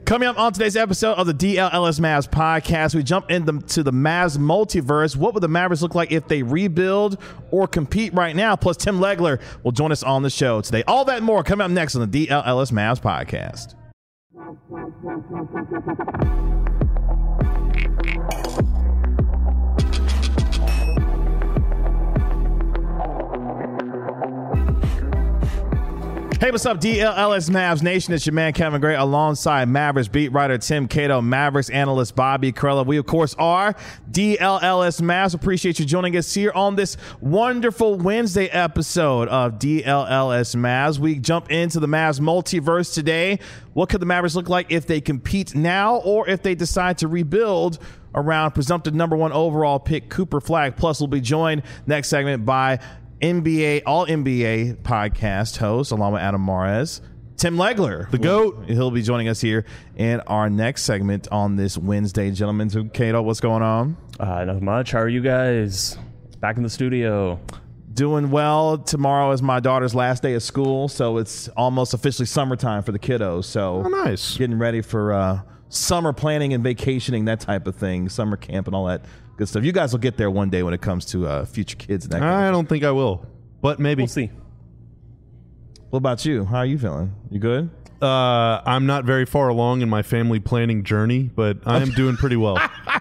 Coming up on today's episode of the DLLS Mavs podcast, we jump into the Mavs multiverse. What would the Mavericks look like if they rebuild or compete right now? Plus, Tim Legler will join us on the show today. All that and more coming up next on the DLLS Mavs podcast. Hey, what's up, DLLS Mavs Nation? It's your man, Kevin Gray, alongside Mavericks beat writer Tim Cato, Mavericks analyst Bobby Karalla. We, of course, are DLLS Mavs. Appreciate you joining us here on this wonderful Wednesday episode of DLLS Mavs. We jump into the Mavs multiverse today. What could the Mavericks look like if they compete now or if they decide to rebuild around presumptive number one overall pick Cooper Flagg? Plus, we'll be joined next segment by NBA, all NBA podcast host, along with Adam Mares, Tim Legler, the GOAT. He'll be joining us here in our next segment on this Wednesday. Gentlemen, so Cato, what's going on? Not much. How are you guys? Back in the studio. Doing well. Tomorrow is my daughter's last day of school, so it's almost officially summertime for the kiddos. So nice. Getting ready for summer planning and vacationing, that type of thing, summer camp and all that good stuff. You guys will get there one day when it comes to future kids. And that I don't think I will, but maybe. We'll see. What about you? How are you feeling? You good? I'm not very far along in my family planning journey, but I am doing pretty well.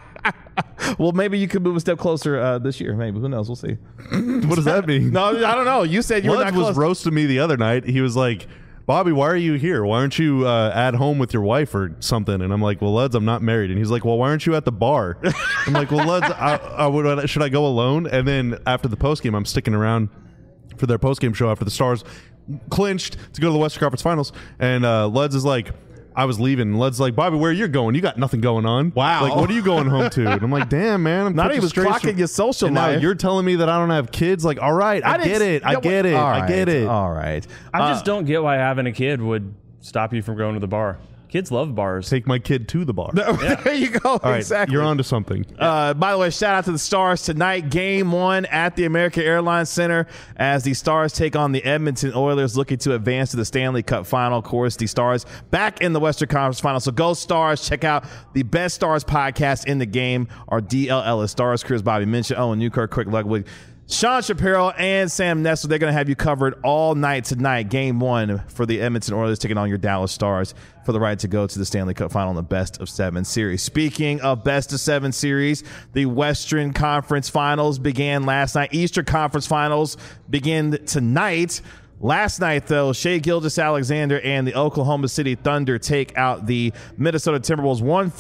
Well, maybe you could move a step closer this year. Maybe. Who knows? We'll see. What does that mean? No, I don't know. You said you were not close. was roasting me the other night. He was like, Bobby, why are you here? Why aren't you at home with your wife or something? And I'm like, well, Luds, I'm not married. And he's like, well, why aren't you at the bar? I'm like, well, Luds, should I go alone? And then after the postgame, I'm sticking around for their postgame show after the Stars clinched to go to the Western Conference Finals. And Luds is like, I was leaving. And Lud's like, Bobby, where are you going? You got nothing going on. Wow. Like, what are you going home to? And I'm like, damn, man. I'm not even clocking your social and life. Now you're telling me that I don't have kids? Like, all right, I get it. I get it. I get it. All right. I just don't get why having a kid would stop you from going to the bar. Kids love bars. Take my kid to the bar. There you go. All right, exactly. You're on to something. By the way, shout out to the Stars tonight. Game 1 at the American Airlines Center as the Stars take on the Edmonton Oilers, looking to advance to the Stanley Cup Final. Of course, the Stars back in the Western Conference Final. So go Stars. Check out the best Stars podcast in the game, our DLLS Stars crew, as Bobby mentioned. Owen Newkirk, Quick Ludwig, Sean Shapiro, and Sam Nestle. They're going to have you covered all night tonight. Game 1 for the Edmonton Oilers taking on your Dallas Stars for the right to go to the Stanley Cup Final in the Best of 7 series. Speaking of Best of 7 series, the Western Conference Finals began last night. Eastern Conference Finals begin tonight. Last night, though, Shai Gilgeous-Alexander and the Oklahoma City Thunder take out the Minnesota Timberwolves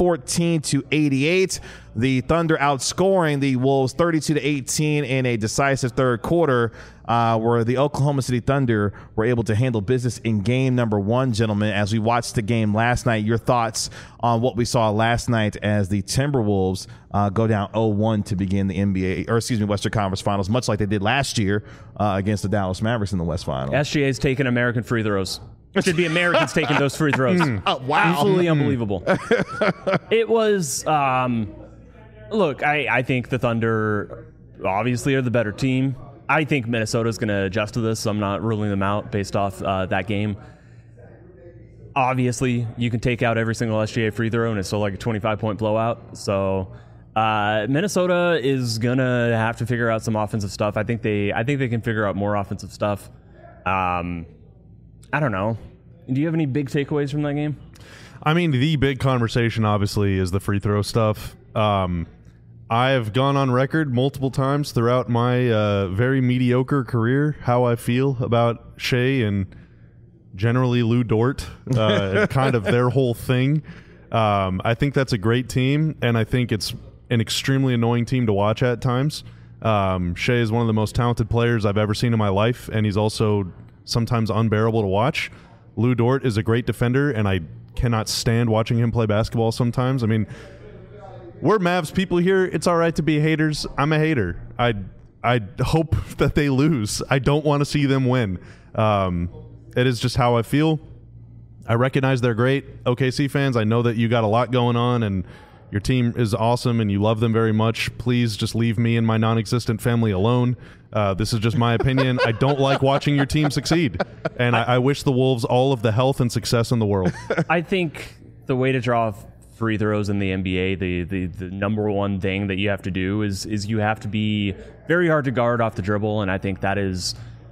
114-88. The Thunder outscoring the Wolves 32-18 in a decisive third quarter, where the Oklahoma City Thunder were able to handle business in game number 1, gentlemen. As we watched the game last night, your thoughts on what we saw last night as the Timberwolves go down 0-1 to begin the Western Conference Finals, much like they did last year against the Dallas Mavericks in the West Final. SGA's taking American free throws. It should be Americans taking those free throws. Oh, wow. Absolutely unbelievable. It was, look, I think the Thunder obviously are the better team. I think Minnesota's going to adjust to this, so I'm not ruling them out based off that game. Obviously, you can take out every single SGA free throw, and it's still like a 25-point blowout. So Minnesota is going to have to figure out some offensive stuff. I think they can figure out more offensive stuff. I don't know. Do you have any big takeaways from that game? I mean, the big conversation, obviously, is the free throw stuff. I have gone on record multiple times throughout my very mediocre career how I feel about Shai and generally Lou Dort, kind of their whole thing. I think that's a great team, and I think it's an extremely annoying team to watch at times. Shai is one of the most talented players I've ever seen in my life, and he's also sometimes unbearable to watch. Lou Dort is a great defender, and I cannot stand watching him play basketball sometimes. I mean, we're Mavs people here. It's all right to be haters. I'm a hater. I hope that they lose. I don't want to see them win. It is just how I feel. I recognize they're great. OKC fans, I know that you got a lot going on, and your team is awesome, and you love them very much. Please just leave me and my non-existent family alone. This is just my opinion. I don't like watching your team succeed, and I wish the Wolves all of the health and success in the world. I think the way to draw free throws in the NBA, the number one thing that you have to do is you have to be very hard to guard off the dribble, and I think that is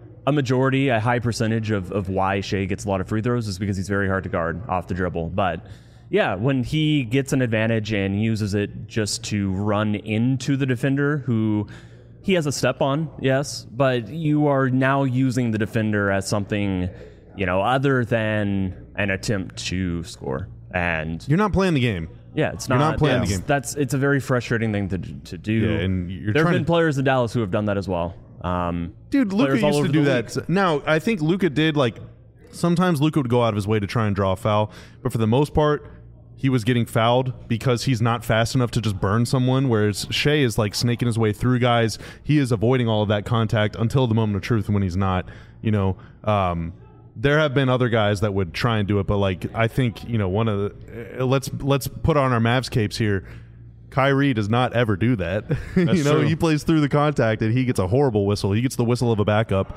a high percentage of why Shai gets a lot of free throws is because he's very hard to guard off the dribble. But yeah, when he gets an advantage and uses it just to run into the defender who he has a step on, yes, but you are now using the defender as something, other than an attempt to score. And you're not playing the game. Yeah, it's not. You're not playing the game. It's a very frustrating thing to do. Yeah, and there have been players in Dallas who have done that as well. Dude, Luka used to do that. League. Now, I think Luka did, sometimes Luka would go out of his way to try and draw a foul, but for the most part, he was getting fouled because he's not fast enough to just burn someone, whereas Shai is snaking his way through guys. He is avoiding all of that contact until the moment of truth when he's not, there have been other guys that would try and do it, but I think, one of the let's put on our Mavs capes here. Kyrie does not ever do that. True. He plays through the contact and he gets a horrible whistle. He gets the whistle of a backup.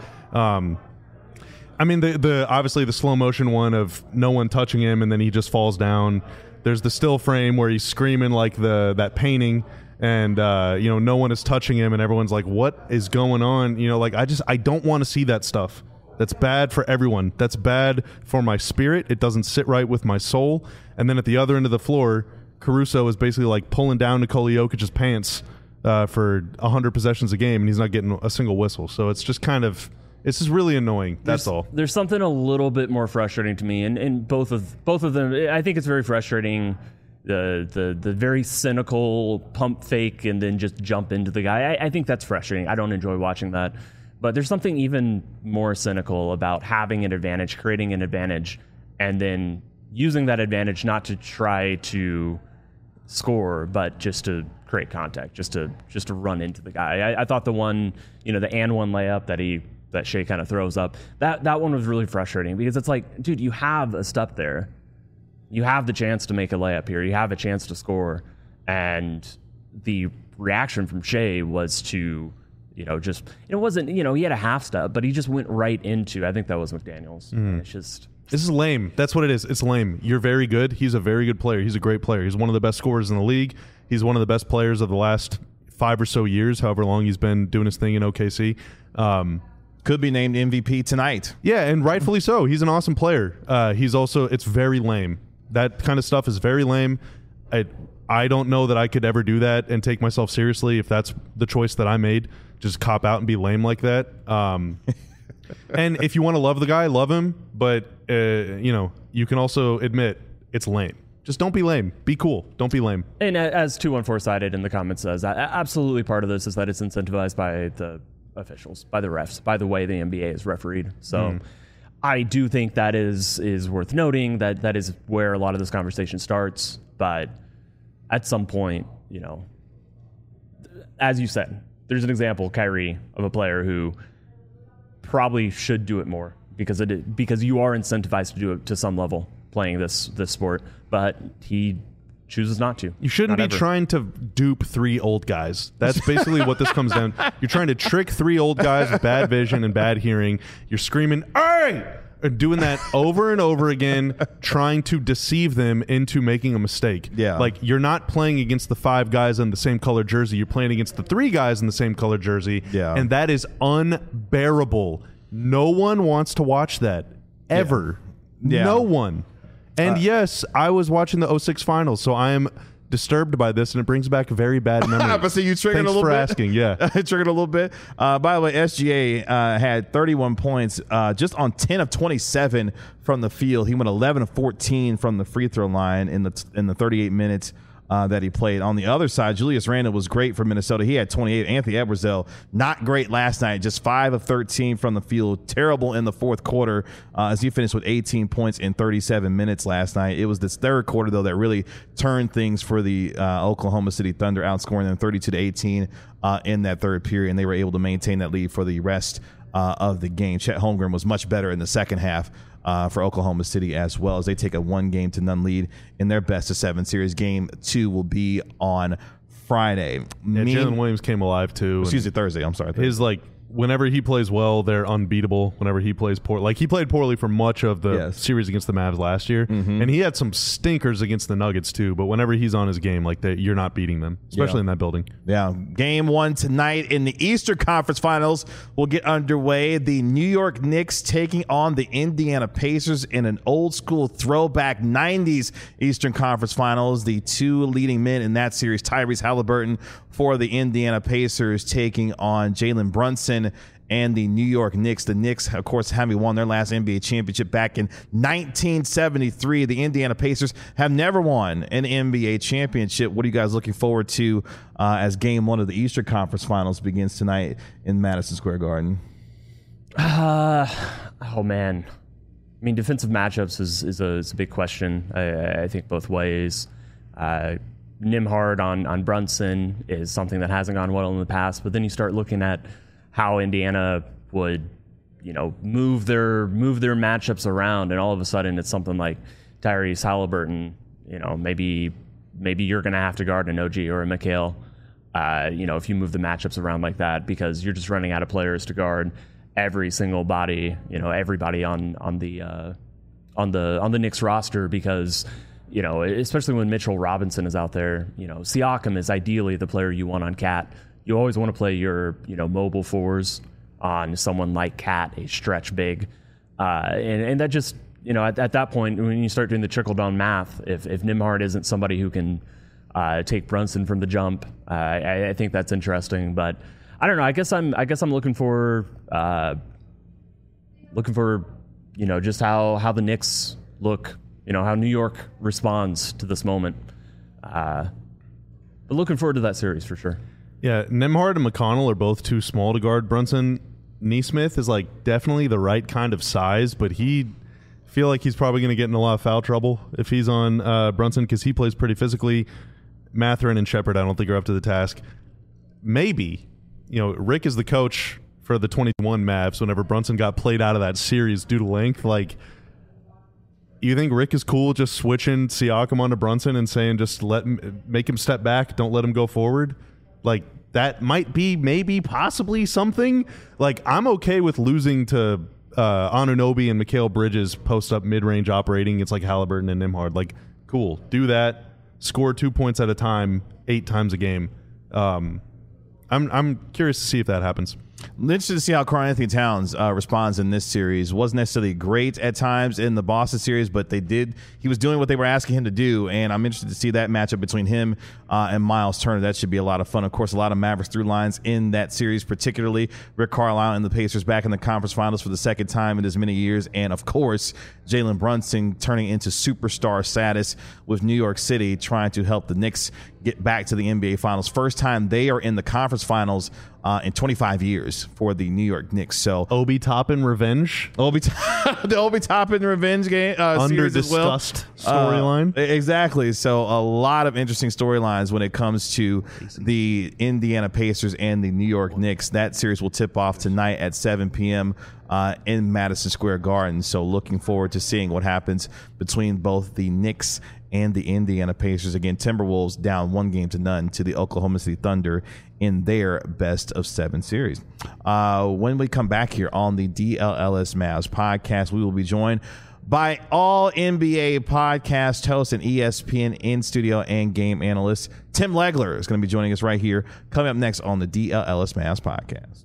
I mean, the obviously the slow motion one of no one touching him and then he just falls down. There's the still frame where he's screaming that painting and no one is touching him and everyone's like, what is going on? I don't want to see that stuff. That's bad for everyone. That's bad for my spirit. It doesn't sit right with my soul. And then at the other end of the floor, Caruso is basically pulling down Nikola Jokic's pants for 100 possessions a game, and he's not getting a single whistle. So it's just it's just really annoying. That's all. There's something a little bit more frustrating to me, and both of them. I think it's very frustrating. The very cynical pump fake and then just jump into the guy. I think that's frustrating. I don't enjoy watching that. But there's something even more cynical about having an advantage, creating an advantage, and then using that advantage not to try to score, but just to create contact, just to run into the guy. I thought the one, the and one layup that Shai kind of throws up, that one was really frustrating because it's dude, you have a step there. You have the chance to make a layup here. You have a chance to score. And the reaction from Shai was to, it wasn't, he had a half step, but he just went right into, I think that was McDaniels. It's just... This is lame. That's what it is. It's lame. You're very good. He's a very good player. He's a great player. He's one of the best scorers in the league. He's one of the best players of the last 5 or so years, however long he's been doing his thing in OKC. Could be named MVP tonight. Yeah, and rightfully so. He's an awesome player. It's very lame. That kind of stuff is very lame. I don't know that I could ever do that and take myself seriously if that's the choice that I made. Just cop out and be lame like that. And if you want to love the guy, love him. But, you can also admit it's lame. Just don't be lame. Be cool. Don't be lame. And as 214 cited in the comments says, absolutely part of this is that it's incentivized by the officials, by the refs, by the way the NBA is refereed. So I do think that is worth noting, that is where a lot of this conversation starts. But at some point, as you said, there's an example, Kyrie, of a player who probably should do it more because you are incentivized to do it to some level playing this sport, but he chooses not to. You shouldn't be trying to dupe 3 old guys. That's basically what this comes down. You're trying to trick 3 old guys with bad vision and bad hearing. You're screaming, "Hey!" and doing that over and over again, trying to deceive them into making a mistake. Yeah. You're not playing against the 5 guys in the same color jersey. You're playing against the 3 guys in the same color jersey. Yeah. And that is unbearable. No one wants to watch that. Ever. Yeah. No one. And yes, I was watching the 06 finals, so I am disturbed by this, and it brings back very bad memories. But see, you triggered Thanks a little for bit. asking. Yeah, triggered a little bit. By the way, SGA had 31 points just on 10 of 27 from the field. He went 11 of 14 from the free throw line in the 38 minutes that he played. On the other side, Julius Randle was great for Minnesota. He had 28. Anthony Edwards, though, not great last night. Just 5 of 13 from the field. Terrible in the fourth quarter as he finished with 18 points in 37 minutes last night. It was this third quarter, though, that really turned things for the Oklahoma City Thunder, outscoring them 32-18 in that third period, and they were able to maintain that lead for the rest of the game. Chet Holmgren was much better in the second half for Oklahoma City as well, as they take a 1-game-to-none lead in their best-of-7 series. Game 2 will be on Friday. Jalen Williams came alive too. Excuse me, Thursday. I'm sorry. Thursday. His whenever he plays well, they're unbeatable. Whenever he plays poor, like he played poorly for much of the series against the Mavs last year, and he had some stinkers against the Nuggets too. But whenever he's on his game, like you're not beating them, especially in that building. Yeah, game 1 tonight in the Eastern Conference Finals will get underway. The New York Knicks taking on the Indiana Pacers in an old school throwback 90s Eastern Conference Finals. The two leading men in that series, Tyrese Halliburton for the Indiana Pacers, taking on Jalen Brunson and the New York Knicks. The Knicks, of course, having won their last NBA championship back in 1973. The Indiana Pacers have never won an NBA championship. What are you guys looking forward to as game 1 of the Eastern Conference Finals begins tonight in Madison Square Garden? Oh, man. I mean, defensive matchups is a big question, I think, both ways. Nembhard on Brunson is something that hasn't gone well in the past, but then you start looking at how Indiana would, move their matchups around, and all of a sudden it's something like Tyrese Halliburton. Maybe you're going to have to guard an OG or a Mikal. If you move the matchups around like that, because you're just running out of players to guard every single body. Everybody on the Knicks roster, because especially when Mitchell Robinson is out there. Siakam is ideally the player you want on Cat. You always want to play your, mobile fours on someone like Cat, a stretch big. And that just, at that point, when you start doing the trickle-down math, if Nembhard isn't somebody who can take Brunson from the jump, I think that's interesting. But I don't know. I guess I'm looking for just how the Knicks look, how New York responds to this moment. But looking forward to that series for sure. Yeah, Nembhard and McConnell are both too small to guard Brunson. Neesmith is definitely the right kind of size, but feel like he's probably going to get in a lot of foul trouble if he's on Brunson, because he plays pretty physically. Mathurin and Shepherd, I don't think, are up to the task. Maybe, Rick is the coach for the 21 Mavs whenever Brunson got played out of that series due to length. You think Rick is cool just switching Siakam onto Brunson and saying just make him step back, don't let him go forward? That might be maybe possibly something. I'm okay with losing to Anunoby and Mikal Bridges post up mid-range operating. It's like Halliburton and Nembhard. Cool, do that. Score 2 points at a time, 8 times a game. I'm curious to see if that happens. Interested to see how Karl-Anthony Towns responds in this series. Wasn't necessarily great at times in the Boston series, but he was doing what they were asking him to do, and I'm interested to see that matchup between him and Miles Turner. That should be a lot of fun. Of course, a lot of Mavericks through lines in that series, particularly Rick Carlisle and the Pacers back in the conference finals for the second time in as many years, and of course, Jalen Brunson turning into superstar status with New York City, trying to help the Knicks get back to the NBA Finals. First time they are in the conference finals in 25 years for the New York Knicks. So Obi Toppin revenge, the Obi Toppin revenge game under series as well. Discussed storyline. Exactly. So a lot of interesting storylines when it comes to the Indiana Pacers and the New York Knicks. That series will tip off tonight at 7 p.m. In Madison Square Garden. So looking forward to seeing what happens between both the Knicks and the Indiana Pacers. Again, Timberwolves down 1-0 to the Oklahoma City Thunder in their best of 7 series. When we come back here on the DLLS Mavs podcast, we will be joined by all NBA podcast host and ESPN in-studio and game analyst Tim Legler is going to be joining us right here, coming up next on the DLLS Mavs podcast.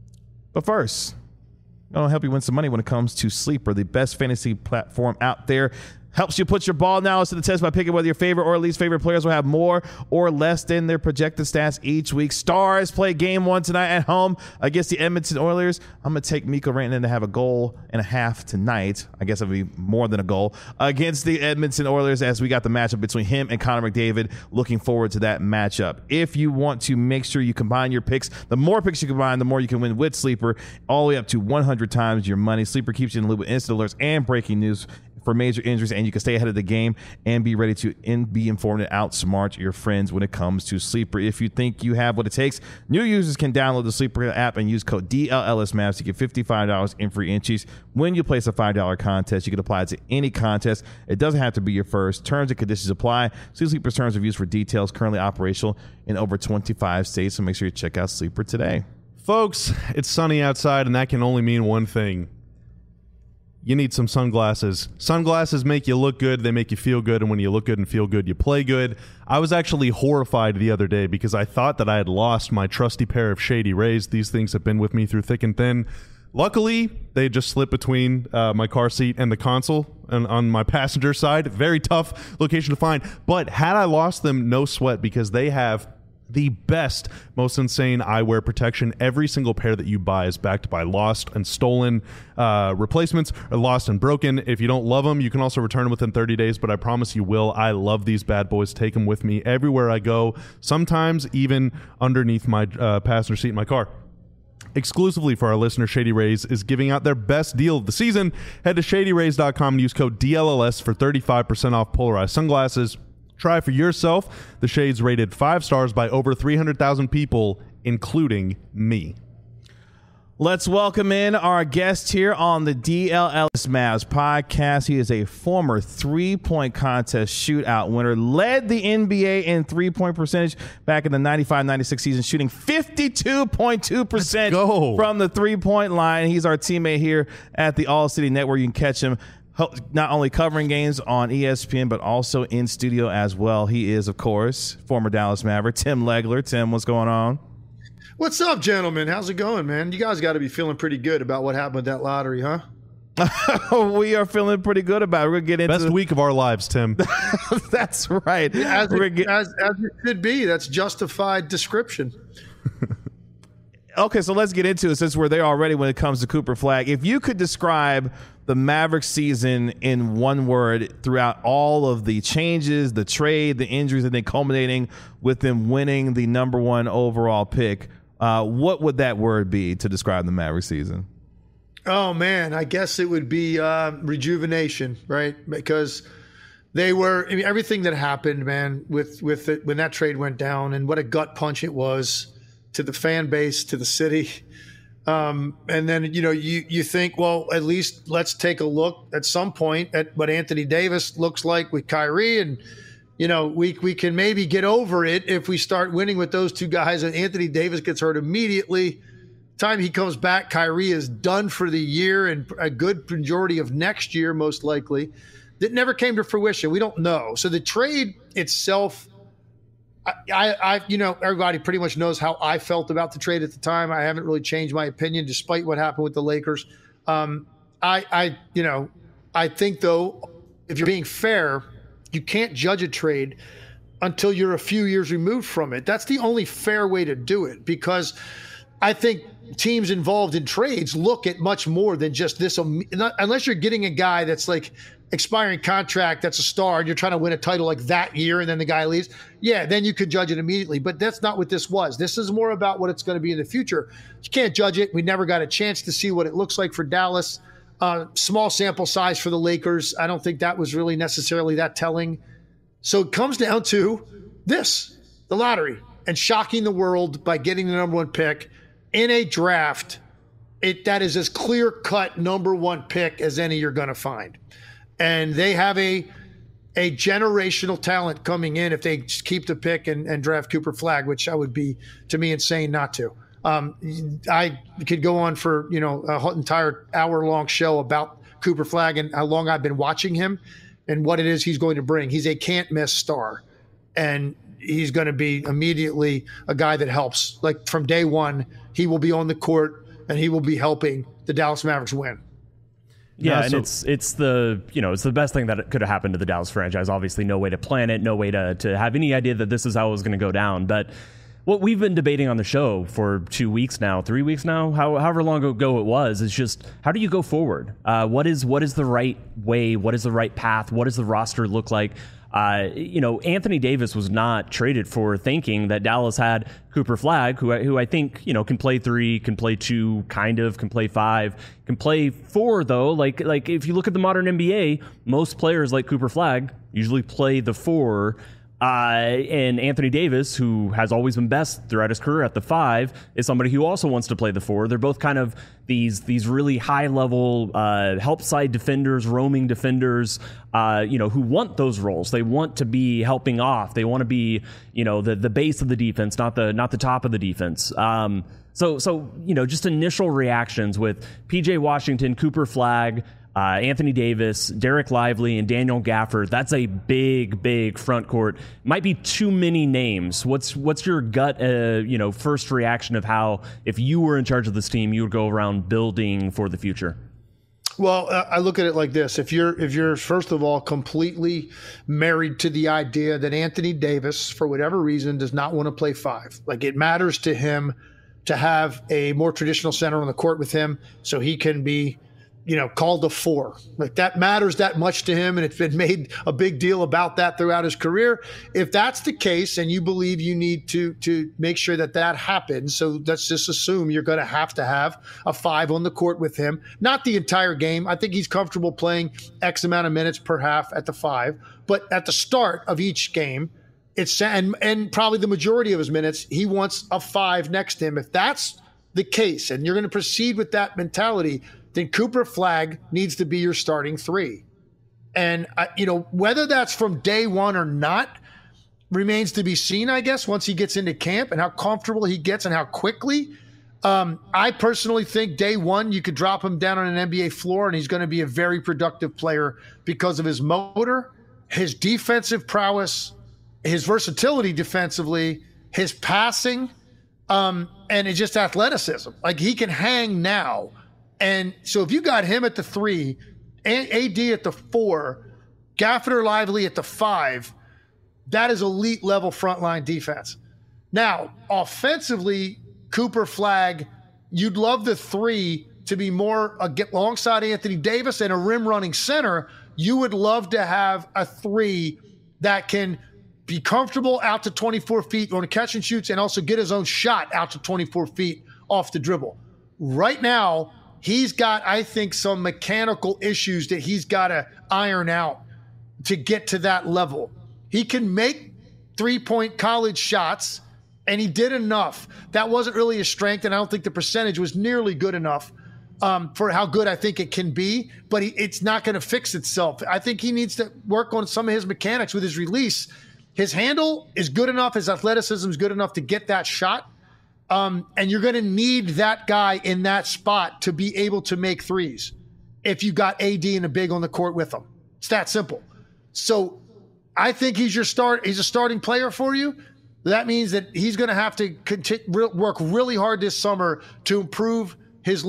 But first, I'm going to help you win some money when it comes to Sleeper, the best fantasy platform out there. Helps you put your ball knowledge to the test by picking whether your favorite or least favorite players will have more or less than their projected stats each week. Stars play game 1 tonight at home against the Edmonton Oilers. I'm going to take Mikko Rantanen to have a goal and a half tonight. I guess it'll be more than a goal against the Edmonton Oilers, as we got the matchup between him and Connor McDavid. Looking forward to that matchup. If you want to make sure you combine your picks, the more picks you combine, the more you can win with Sleeper, all the way up to 100 times your money. Sleeper keeps you in the loop with instant alerts and breaking news for major injuries, and you can stay ahead of the game and be ready to be informed and outsmart your friends when it comes to Sleeper. If you think you have what it takes, new users can download the Sleeper app and use code DLLSMavs to get $55 in free entries. When you place a $5 contest, you can apply it to any contest. It doesn't have to be your first. Terms and conditions apply. See Sleeper's terms of use for details. Currently operational in over 25 states, so make sure you check out Sleeper today. Folks, it's sunny outside, and that can only mean one thing. You need some sunglasses. Sunglasses make you look good. They make you feel good. And when you look good and feel good, you play good. I was actually horrified the other day because I thought that I had lost my trusty pair of Shady Rays. These things have been with me through thick and thin. Luckily, they just slipped between my car seat and the console and on my passenger side. Very tough location to find. But had I lost them, no sweat, because they have the best, most insane eyewear protection. Every single pair that you buy is backed by lost and stolen replacements, or lost and broken. If you don't love them, you can also return them within 30 days, but I promise you will. I love these bad boys. Take them with me everywhere I go, sometimes even underneath my passenger seat in my car. Exclusively for our listener, Shady Rays is giving out their best deal of the season. Head to shadyrays.com and use code DLLS for 35% off polarized sunglasses. Try for yourself. The shades rated 5 stars by over 300,000 people, including me. Let's welcome in our guest here on the DLLS Mavs podcast. He is a former three-point contest shootout winner, led the NBA in three-point percentage back in the 95-96 season, shooting 52.2% from the three-point line. He's our teammate here at the All City Network. You can catch him not only covering games on ESPN, but also in studio as well. He is, of course, former Dallas Maverick, Tim Legler. Tim, what's going on? What's up, gentlemen? How's it going, man? You guys got to be feeling pretty good about what happened with that lottery, huh? We are feeling pretty good about it. We're going to get into best week of our lives, Tim. That's right. As it should be. That's justified description. Okay, so let's get into it since we're there already when it comes to Cooper Flagg. If you could describe the Mavericks season in one word throughout all of the changes, the trade, the injuries, and then culminating with them winning the number 1 overall pick, what would that word be to describe the Mavericks season? Oh, man, I guess it would be rejuvenation, right? Because they were, I mean, everything that happened, man, with it, when that trade went down, and what a gut punch it was to the fan base, to the city. And then, you think, well, at least let's take a look at some point at what Anthony Davis looks like with Kyrie. And, we can maybe get over it if we start winning with those two guys. And Anthony Davis gets hurt immediately. Time he comes back, Kyrie is done for the year and a good majority of next year, most likely. That never came to fruition. We don't know. So the trade itself, everybody pretty much knows how I felt about the trade at the time. I haven't really changed my opinion despite what happened with the Lakers. I think, though, if you're being fair, you can't judge a trade until you're a few years removed from it. That's the only fair way to do it, because I think teams involved in trades look at much more than just this. Unless you're getting a guy that's like expiring contract, that's a star, and you're trying to win a title like that year, and then the guy leaves. Yeah, then you could judge it immediately. But that's not what this was. This is more about what it's going to be in the future. You can't judge it. We never got a chance to see what it looks like for Dallas. Small sample size for the Lakers. I don't think that was really necessarily that telling. So it comes down to this, the lottery, and shocking the world by getting the number 1 pick in a draft. That is as clear-cut number 1 pick as any you're going to find. And they have a generational talent coming in if they keep the pick and draft Cooper Flagg, which I would be, to me, insane not to. I could go on for, a entire hour-long show about Cooper Flagg and how long I've been watching him and what it is he's going to bring. He's a can't-miss star, and he's going to be immediately a guy that helps. Like, from day one, he will be on the court, and he will be helping the Dallas Mavericks win. Yeah, and it's the best thing that could have happened to the Dallas franchise. Obviously, no way to plan it, no way to have any idea that this is how it was going to go down. But what we've been debating on the show for 2 weeks now, 3 weeks now, however long ago it was, is just how do you go forward? What is the right way? What is the right path? What does the roster look like? Anthony Davis was not traded for thinking that Dallas had Cooper Flagg, who I think, can play 3, can play 2, can play 5, can play 4, though. Like if you look at the modern NBA, most players like Cooper Flagg usually play the 4. And Anthony Davis, who has always been best throughout his career at the 5, is somebody who also wants to play the 4. They're both kind of these really high-level help side defenders, roaming defenders, who want those roles. They want to be helping off. They want to be, the base of the defense, not the top of the defense. So just initial reactions with PJ Washington, Cooper Flagg, Anthony Davis, Derek Lively, and Daniel Gafford. That's a big front court. Might be too many names. What's your gut, first reaction of how, if you were in charge of this team, you would go around building for the future? Well, I look at it like this. If you're first of all completely married to the idea that Anthony Davis, for whatever reason, does not want to play 5, like it matters to him to have a more traditional center on the court with him so he can be called a 4. Like that matters that much to him, and it's been made a big deal about that throughout his career. If that's the case and you believe you need to make sure that happens, so let's just assume you're going to have a 5 on the court with him. Not the entire game. I think he's comfortable playing X amount of minutes per half at the 5, but at the start of each game, and probably the majority of his minutes, he wants a 5 next to him. If that's the case and you're going to proceed with that mentality, then Cooper Flagg needs to be your starting 3. And, whether that's from day one or not remains to be seen, I guess, once he gets into camp and how comfortable he gets and how quickly. I personally think day one, you could drop him down on an NBA floor and he's going to be a very productive player because of his motor, his defensive prowess, his versatility defensively, his passing, and it's just athleticism. Like he can hang now. And so if you got him at the 3, AD at the 4, Gafford or Lively at the 5, that is elite level frontline defense. Now, offensively, Cooper Flagg, you'd love the 3 to be more get alongside Anthony Davis and a rim running center. You would love to have a 3 that can be comfortable out to 24 feet on a catch and shoots and also get his own shot out to 24 feet off the dribble. Right now, he's got, I think, some mechanical issues that he's got to iron out to get to that level. He can make 3-point college shots, and he did enough. That wasn't really his strength, and I don't think the percentage was nearly good enough for how good I think it can be, but it's not going to fix itself. I think he needs to work on some of his mechanics with his release. His handle is good enough. His athleticism is good enough to get that shot. And you're going to need that guy in that spot to be able to make threes if you got AD and a big on the court with him. It's that simple. So I think he's a starting player for you. That means that he's going to have to work really hard this summer to improve his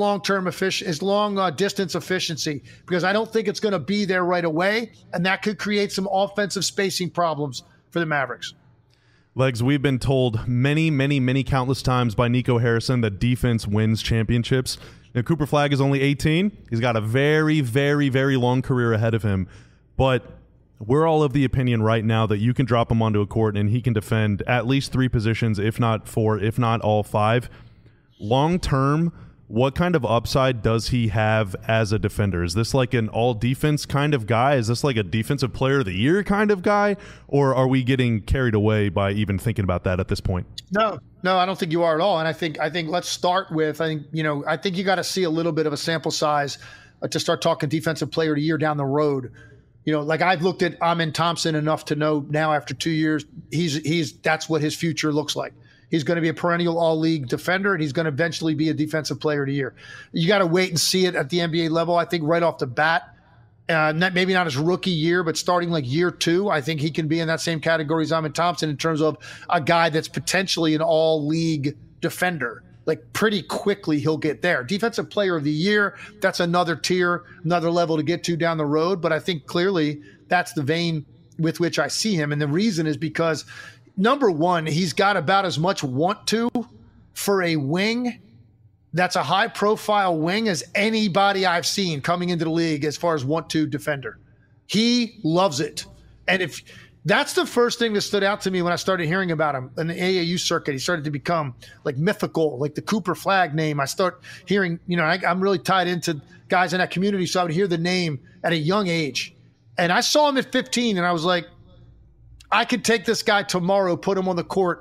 long distance efficiency, because I don't think it's going to be there right away, and that could create some offensive spacing problems for the Mavericks. Legs, we've been told many countless times by Nico Harrison that defense wins championships. Now, Cooper Flagg is only 18. He's got a very long career ahead of him, but we're all of the opinion right now that you can drop him onto a court and he can defend at least 3 positions, if not 4, if not all 5. Long term, what kind of upside does he have as a defender? Is this like an all-defense kind of guy? Is this like a defensive player of the year kind of guy? Or are we getting carried away by even thinking about that at this point? No, I don't think you are at all. And I think let's start with, I think you got to see a little bit of a sample size to start talking defensive player of the year down the road. Like I've looked at Amen Thompson enough to know now after 2 years, that's what his future looks like. He's going to be a perennial all-league defender, and he's going to eventually be a defensive player of the year. You got to wait and see it at the NBA level. I think right off the bat, maybe not his rookie year, but starting like year 2, I think he can be in that same category as Amen Thompson in terms of a guy that's potentially an all-league defender. Like pretty quickly he'll get there. Defensive player of the year, that's another tier, another level to get to down the road. But I think clearly that's the vein with which I see him. And the reason is because – number one, he's got about as much want to for a wing that's a high-profile wing as anybody I've seen coming into the league as far as want to defender. He loves it. And if that's the first thing that stood out to me when I started hearing about him in the AAU circuit, he started to become like mythical, like the Cooper Flagg name. I start hearing, I'm really tied into guys in that community, so I would hear the name at a young age. And I saw him at 15, and I was like, I could take this guy tomorrow, put him on the court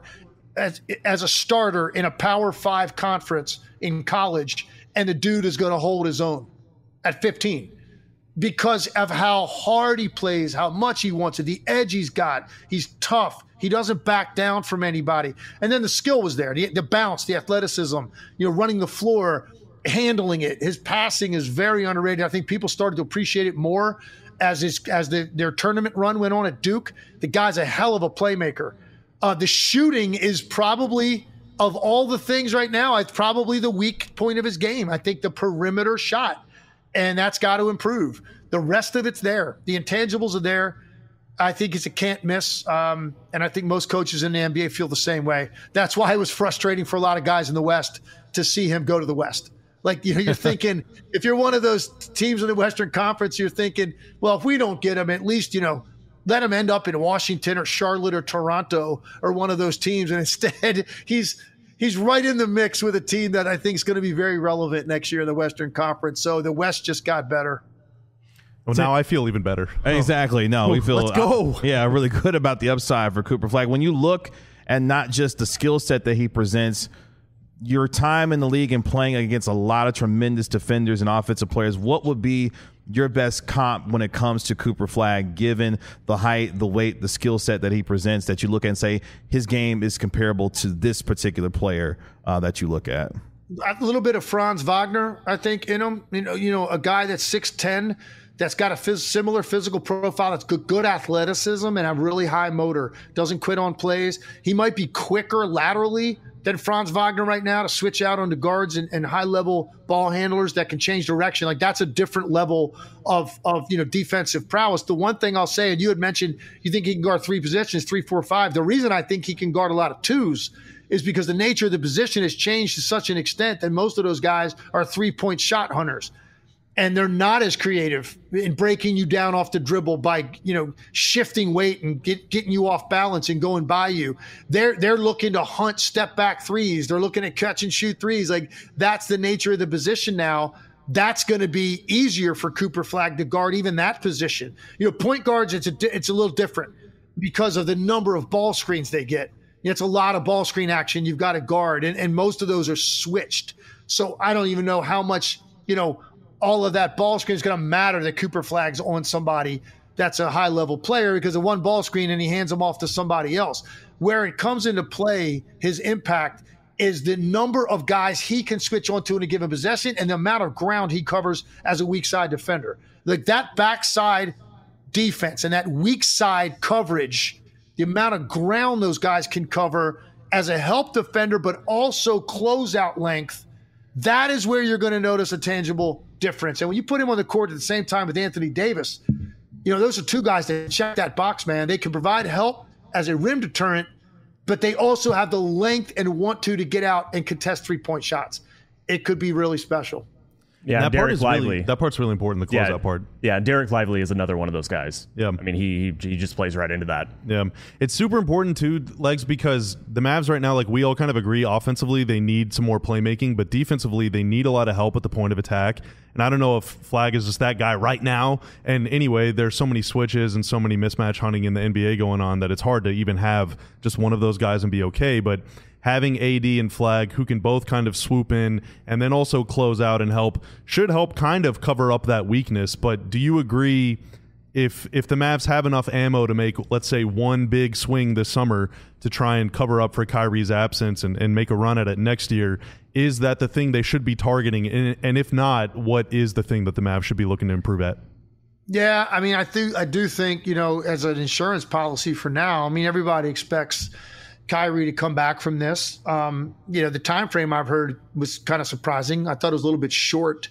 as a starter in a Power 5 conference in college, and the dude is going to hold his own at 15 because of how hard he plays, how much he wants it, the edge he's got. He's tough. He doesn't back down from anybody. And then the skill was there, the bounce, the athleticism, running the floor, handling it. His passing is very underrated. I think people started to appreciate it more as their tournament run went on at Duke. The guy's a hell of a playmaker. The shooting is probably, of all the things right now, it's probably the weak point of his game. I think the perimeter shot, and that's got to improve. The rest of it's there. The intangibles are there. I think it's a can't miss, and I think most coaches in the NBA feel the same way. That's why it was frustrating for a lot of guys in the West to see him go to the West. Like, you're thinking, if you're one of those teams in the Western Conference, you're thinking, well, if we don't get him, at least, let him end up in Washington or Charlotte or Toronto or one of those teams. And instead, he's right in the mix with a team that I think is going to be very relevant next year in the Western Conference. So the West just got better. Well, now I feel even better. Exactly. No, we feel let's go. Really good about the upside for Cooper Flagg. When you look at not just the skill set that he presents, your time in the league and playing against a lot of tremendous defenders and offensive players, what would be your best comp when it comes to Cooper Flagg, given the height, the weight, the skill set that he presents, that you look at and say his game is comparable to this particular player that you look at? A little bit of Franz Wagner, I think, in him. A guy that's 6'10", that's got a similar physical profile, that's good athleticism and a really high motor, doesn't quit on plays. He might be quicker laterally than Franz Wagner right now to switch out onto guards and high-level ball handlers that can change direction. Like, that's a different level of defensive prowess. The one thing I'll say, and you had mentioned you think he can guard 3 positions, 3, 4, 5. The reason I think he can guard a lot of 2s is because the nature of the position has changed to such an extent that most of those guys are 3-point shot hunters. And they're not as creative in breaking you down off the dribble by, shifting weight and getting you off balance and going by you. They're looking to hunt step back threes. They're looking at catch and shoot threes. Like, that's the nature of the position now. That's going to be easier for Cooper Flagg to guard even that position. Point guards, it's a little different because of the number of ball screens they get. It's a lot of ball screen action you've got to guard, and most of those are switched. So I don't even know how much, all of that ball screen is going to matter that Cooper Flagg's on somebody that's a high-level player, because of one ball screen and he hands them off to somebody else. Where it comes into play, his impact, is the number of guys he can switch onto in a given possession and the amount of ground he covers as a weak side defender. Like, that backside defense and that weak side coverage, the amount of ground those guys can cover as a help defender, but also closeout length, that is where you're going to notice a tangible difference. And when you put him on the court at the same time with Anthony Davis, those are 2 guys that check that box, man. They can provide help as a rim deterrent, but they also have the length and want to get out and contest 3-point shots. It could be really special. Yeah, Derek Lively. That part's really important, the closeout part. Yeah, Derek Lively is another one of those guys. Yeah. I mean, he just plays right into that. Yeah. It's super important, too, Legs, because the Mavs right now, like, we all kind of agree, offensively they need some more playmaking, but defensively they need a lot of help at the point of attack. And I don't know if Flagg is just that guy right now. And anyway, there's so many switches and so many mismatch hunting in the NBA going on that it's hard to even have just one of those guys and be okay. But having AD and Flagg, who can both kind of swoop in and then also close out and help, should help kind of cover up that weakness. But do you agree, if the Mavs have enough ammo to make, let's say, one big swing this summer to try and cover up for Kyrie's absence and make a run at it next year, is that the thing they should be targeting? And if not, what is the thing that the Mavs should be looking to improve at? Yeah, I mean, I do think, as an insurance policy for now, I mean, everybody expects Kyrie to come back from this. The time frame I've heard was kind of surprising. I thought it was a little bit short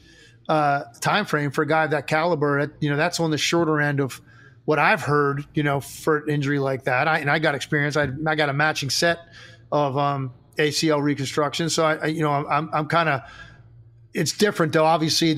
time frame for a guy of that caliber. That's on the shorter end of what I've heard, for an injury like that. I got experience. I got a matching set of ACL reconstruction. So I'm kind of, it's different though. Obviously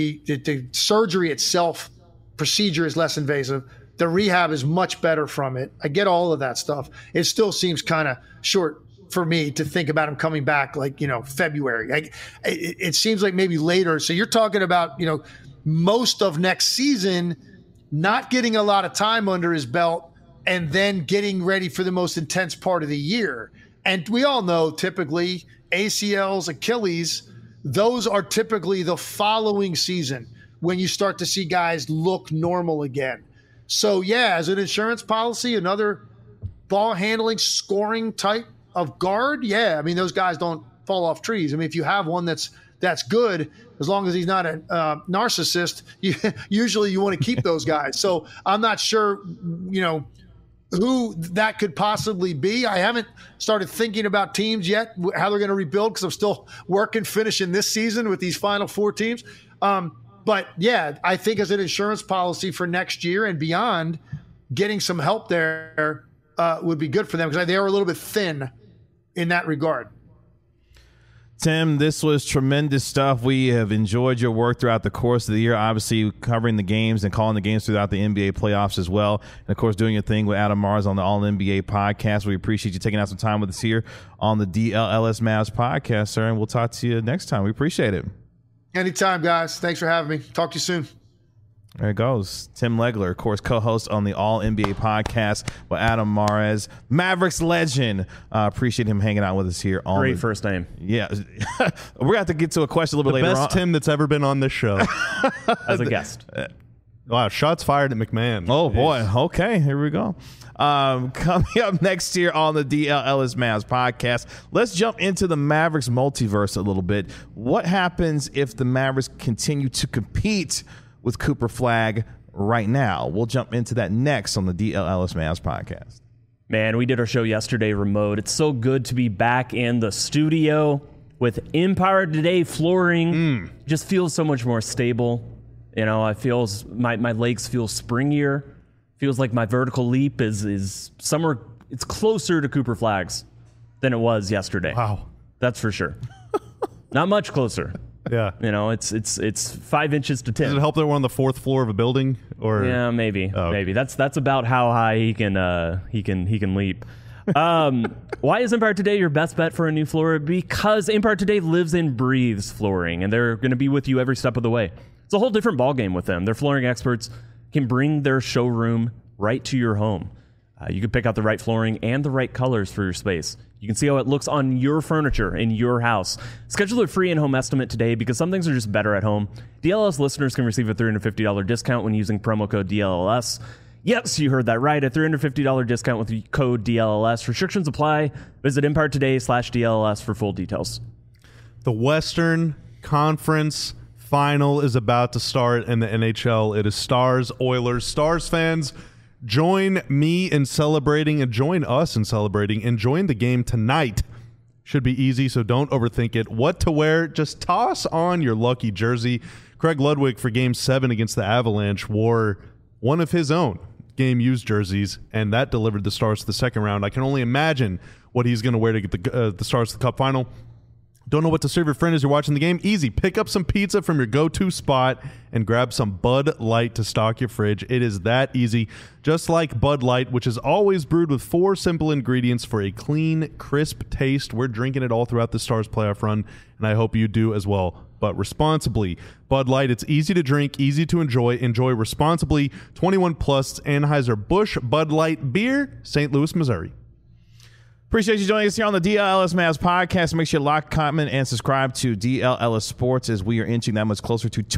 the surgery itself, procedure is less invasive. The rehab is much better from it. I get all of that stuff. It still seems kind of short for me to think about him coming back like, February. It seems like maybe later. So you're talking about, most of next season, not getting a lot of time under his belt and then getting ready for the most intense part of the year. And we all know typically ACLs, Achilles, those are typically the following season when you start to see guys look normal again. So, yeah, as an insurance policy, another ball handling, scoring type of guard, yeah, I mean, those guys don't fall off trees. I mean, if you have one that's good, as long as he's not a narcissist, usually you want to keep those guys. So I'm not sure, who that could possibly be. I haven't started thinking about teams yet, how they're going to rebuild, because I'm still finishing this season with these final 4 teams. But yeah, I think as an insurance policy for next year and beyond, getting some help there would be good for them, because they are a little bit thin in that regard. Tim, this was tremendous stuff. We have enjoyed your work throughout the course of the year, obviously covering the games and calling the games throughout the NBA playoffs as well. And, of course, doing your thing with Adam Mars on the All-NBA podcast. We appreciate you taking out some time with us here on the DLLS Mavs podcast, sir. And we'll talk to you next time. We appreciate it. Anytime, guys. Thanks for having me. Talk to you soon. There it goes. Tim Legler, of course, co-host on the All-NBA podcast with Adam Mares, Mavericks legend. Appreciate him hanging out with us here. Great first name. Yeah. We're going to have to get to a question a little bit later on. The best Tim that's ever been on this show. As a guest. Wow, shots fired at McMahon. Oh, boy. Okay, here we go. Coming up next year on the DLLS Mavs podcast, let's jump into the Mavericks multiverse a little bit. What happens if the Mavericks continue to compete with Cooper Flagg right now? We'll jump into that next on the DLLS Mavs podcast. Man, we did our show yesterday remote. It's so good to be back in the studio with Empire Today flooring. Just feels so much more stable. I feel my legs feel springier. Feels like my vertical leap is somewhere. It's closer to Cooper Flagg's than it was yesterday. Wow, that's for sure. Not much closer. Yeah, it's 5 inches to 10. Does it help that we're on the 4th floor of a building? Or yeah, maybe, maybe that's about how high he can leap. Why is Empire Today your best bet for a new floor? Because Empire Today lives and breathes flooring, and they're going to be with you every step of the way. It's a whole different ballgame with them. Their flooring experts can bring their showroom right to your home. You can pick out the right flooring and the right colors for your space. You can see how it looks on your furniture in your house. Schedule a free in-home estimate today, because some things are just better at home. DLLS listeners can receive a $350 discount when using promo code DLLS. Yes, you heard that right. A $350 discount with the code DLLS. Restrictions apply. Visit EmpireToday/DLLS for full details. The Western Conference Final is about to start in the NHL. It is Stars, Oilers. Stars fans, join me in celebrating and join us in celebrating and join the game tonight. Should be easy, so don't overthink it. What to wear? Just toss on your lucky jersey. Craig Ludwig for Game 7 against the Avalanche wore one of his own game-used jerseys, and that delivered the Stars to the second round. I can only imagine what he's going to wear to get the Stars to the Cup final. Don't know what to serve your friend as you're watching the game? Easy. Pick up some pizza from your go-to spot and grab some Bud Light to stock your fridge. It is that easy. Just like Bud Light, which is always brewed with 4 simple ingredients for a clean, crisp taste. We're drinking it all throughout the Stars playoff run, and I hope you do as well. But responsibly. Bud Light, it's easy to drink, easy to enjoy. Enjoy responsibly. 21 plus. Anheuser-Busch Bud Light Beer, St. Louis, Missouri. Appreciate you joining us here on the DLLS Mavs podcast. Make sure you like, comment, and subscribe to DLLS Sports, as we are inching that much closer to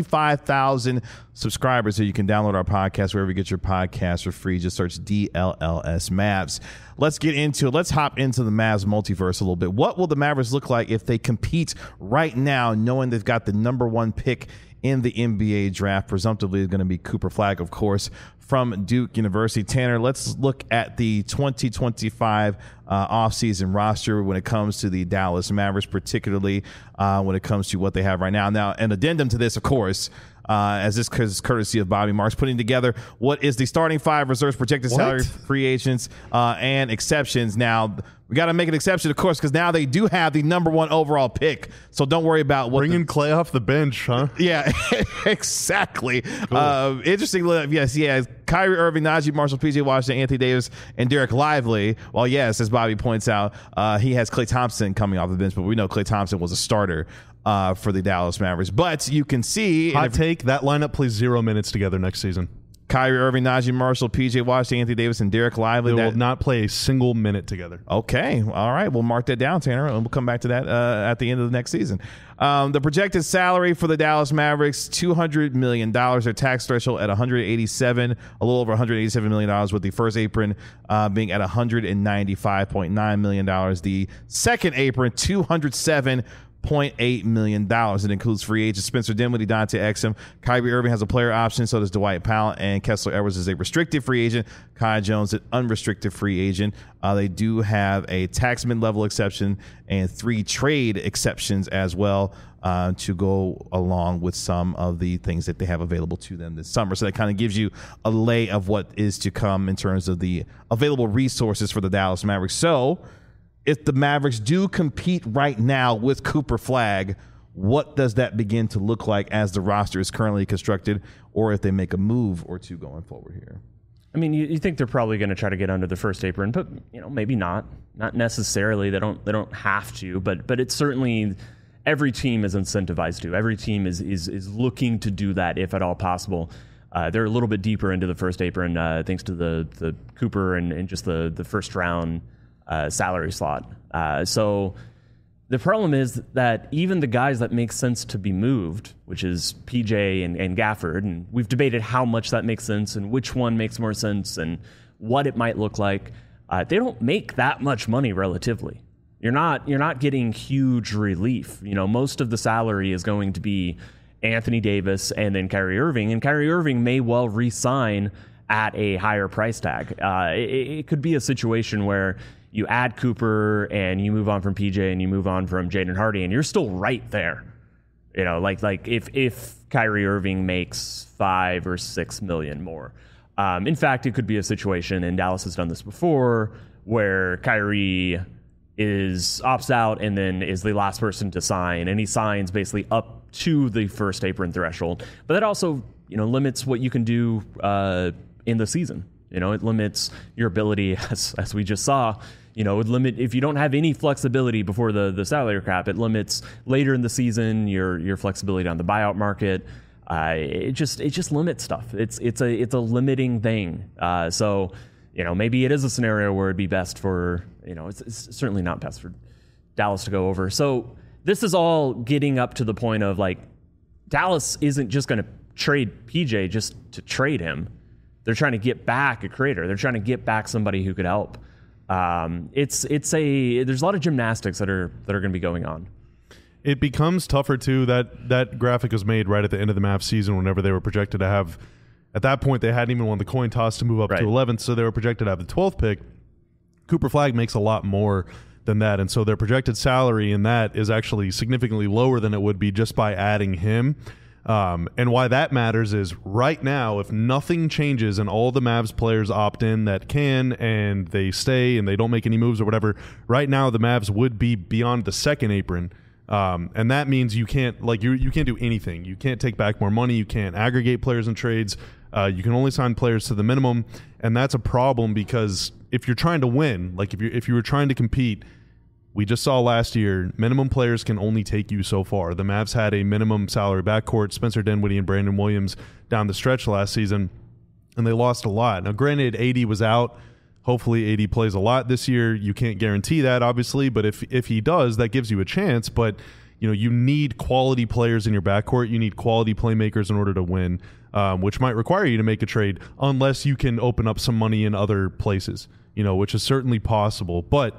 25,000 subscribers. So you can download our podcast wherever you get your podcasts for free. Just search DLLS Mavs. Let's get into it. Let's hop into the Mavs multiverse a little bit. What will the Mavericks look like if they compete right now, knowing they've got the number 1 pick in the NBA draft? Presumptively is going to be Cooper Flagg, of course, from Duke University. Tanner, let's look at the 2025 offseason roster when it comes to the Dallas Mavericks, particularly when it comes to what they have right now. Now, an addendum to this, of course, as this is courtesy of Bobby Marks, putting together what is the starting 5, reserves, projected salary, free agents, and exceptions. Now, we got to make an exception, of course, because now they do have the number 1 overall pick. So don't worry about what bringing Clay off the bench, huh? Yeah, exactly. Cool. Interesting. Yes, yeah. Kyrie Irving, Najee Marshall, PJ Washington, Anthony Davis, and Derek Lively. Well, yes, as Bobby points out, he has Klay Thompson coming off the bench, but we know Klay Thompson was a starter for the Dallas Mavericks. But you can see, hot take, that lineup plays 0 minutes together next season. Kyrie Irving, Najee Marshall, PJ Washington, Anthony Davis, and Derek Lively. They will not play a single minute together. Okay. All right. We'll mark that down, Tanner, and we'll come back to that at the end of the next season. The projected salary for the Dallas Mavericks, $200 million. Their tax threshold at a little over $187 million, with the first apron being at $195.9 million. The second apron, $207.8 million. It includes free agents Spencer Dinwiddie, Dante Exum. Kyrie Irving has a player option, so does Dwight Powell, and Kessler Edwards is a restricted free agent. Kai Jones, an unrestricted free agent. They do have a tax mid-level exception and 3 trade exceptions as well to go along with some of the things that they have available to them this summer. So that kind of gives you a lay of what is to come in terms of the available resources for the Dallas Mavericks. So if the Mavericks do compete right now with Cooper Flagg, what does that begin to look like as the roster is currently constructed, or if they make a move or two going forward here? I mean, you think they're probably going to try to get under the first apron, but maybe not necessarily. They don't have to, but it's certainly every team is incentivized to. Every team is looking to do that if at all possible. They're a little bit deeper into the first apron thanks to the Cooper and just the first round salary slot. So the problem is that even the guys that make sense to be moved, which is PJ and Gafford, and we've debated how much that makes sense and which one makes more sense and what it might look like, they don't make that much money relatively. You're not getting huge relief. Most of the salary is going to be Anthony Davis and then Kyrie Irving, and Kyrie Irving may well re-sign at a higher price tag. It could be a situation where you add Cooper and you move on from PJ and you move on from Jaden Hardy, and you're still right there. Like if Kyrie Irving makes $5 or $6 million more. In fact, it could be a situation, and Dallas has done this before, where Kyrie opts out and then is the last person to sign, and he signs basically up to the first apron threshold. But that also, limits what you can do in the season. It limits your ability, as we just saw. It would limit if you don't have any flexibility before the salary cap. It limits later in the season your flexibility on the buyout market. It just limits stuff. It's a limiting thing. So maybe it is a scenario where it'd be best for it's certainly not best for Dallas to go over. So this is all getting up to the point of like Dallas isn't just going to trade PJ just to trade him. They're trying to get back a creator. They're trying to get back somebody who could help. There's a lot of gymnastics that are going to be going on. It becomes tougher too. That graphic was made right at the end of the Mavs season, whenever they were projected to have. At that point, they hadn't even won the coin toss to move up to 11th, so they were projected to have the 12th pick. Cooper Flagg makes a lot more than that, and so their projected salary in that is actually significantly lower than it would be just by adding him. And why that matters is right now, if nothing changes and all the Mavs players opt in that can, and they stay and they don't make any moves or whatever, right now the Mavs would be beyond the second apron. And that means you can't you can't do anything. You can't take back more money. You can't aggregate players in trades. You can only sign players to the minimum. And that's a problem, because if you're trying to win, like if you were trying to compete, we just saw last year, minimum players can only take you so far. The Mavs had a minimum salary backcourt, Spencer Dinwiddie and Brandon Williams, down the stretch last season, and they lost a lot. Now, granted, AD was out. Hopefully, AD plays a lot this year. You can't guarantee that, obviously, but if he does, that gives you a chance. But you need quality players in your backcourt. You need quality playmakers in order to win, which might require you to make a trade, unless you can open up some money in other places, which is certainly possible. But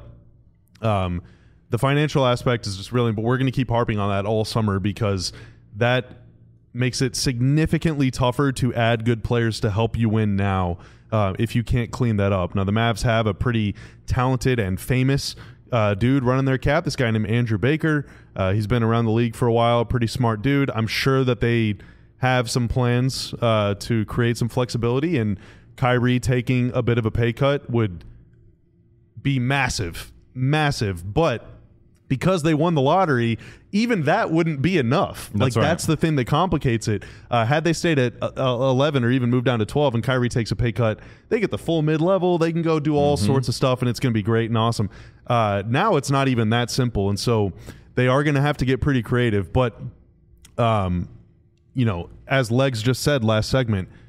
the financial aspect is just really, but we're going to keep harping on that all summer, because that makes it significantly tougher to add good players to help you win now if you can't clean that up. Now, the Mavs have a pretty talented and famous dude running their cap, this guy named Andrew Baker. He's been around the league for a while, pretty smart dude. I'm sure that they have some plans to create some flexibility, and Kyrie taking a bit of a pay cut would be massive, but because they won the lottery, even that wouldn't be enough. That's the thing that complicates it. Had they stayed at 11 or even moved down to 12 and Kyrie takes a pay cut, they get the full mid-level. They can go do all sorts of stuff, and it's going to be great and awesome. Now it's not even that simple, and so they are going to have to get pretty creative. But, as Legs just said last segment,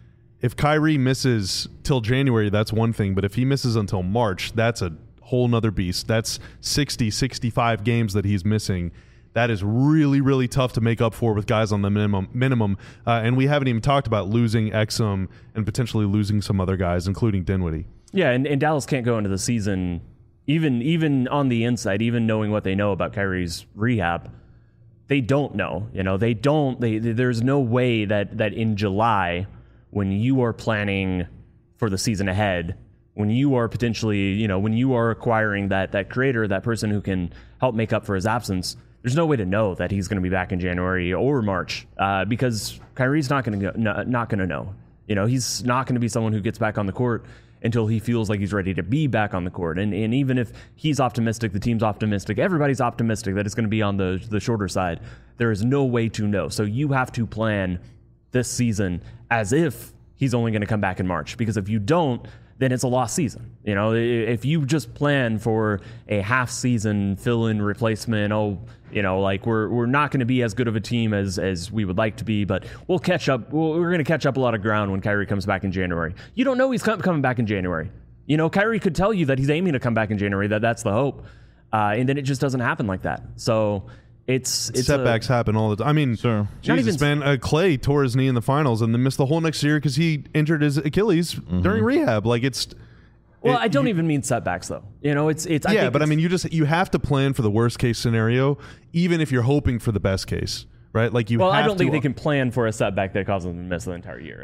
if Kyrie misses till January, that's one thing. But if he misses until March, that's a whole nother beast. That's 60, 65 games that he's missing. That is really, really tough to make up for with guys on the minimum. And we haven't even talked about losing Exum and potentially losing some other guys, including Dinwiddie. Yeah, and Dallas can't go into the season, even on the inside, even knowing what they know about Kyrie's rehab. They don't know. There's no way that in July, when you are planning for the season ahead, when you are potentially, when you are acquiring that creator, that person who can help make up for his absence, there's no way to know that he's going to be back in January or March because Kyrie's not going to know. He's not going to be someone who gets back on the court until he feels like he's ready to be back on the court. And even if he's optimistic, the team's optimistic, everybody's optimistic that it's going to be on the shorter side, there is no way to know. So you have to plan this season as if he's only going to come back in March, because if you don't, then it's a lost season. If you just plan for a half season fill-in replacement, we're not going to be as good of a team as we would like to be, but we'll catch up. We're going to catch up a lot of ground when Kyrie comes back in January. You don't know he's coming back in January. Kyrie could tell you that he's aiming to come back in January, that's the hope. And then it just doesn't happen like that. So it's setbacks happen all the time. I mean, sure. Jesus, man, Clay tore his knee in the finals and then missed the whole next year because he injured his Achilles during rehab. I don't even mean setbacks though. You have to plan for the worst case scenario, even if you're hoping for the best case, right? I don't think they can plan for a setback that causes them to miss the entire year.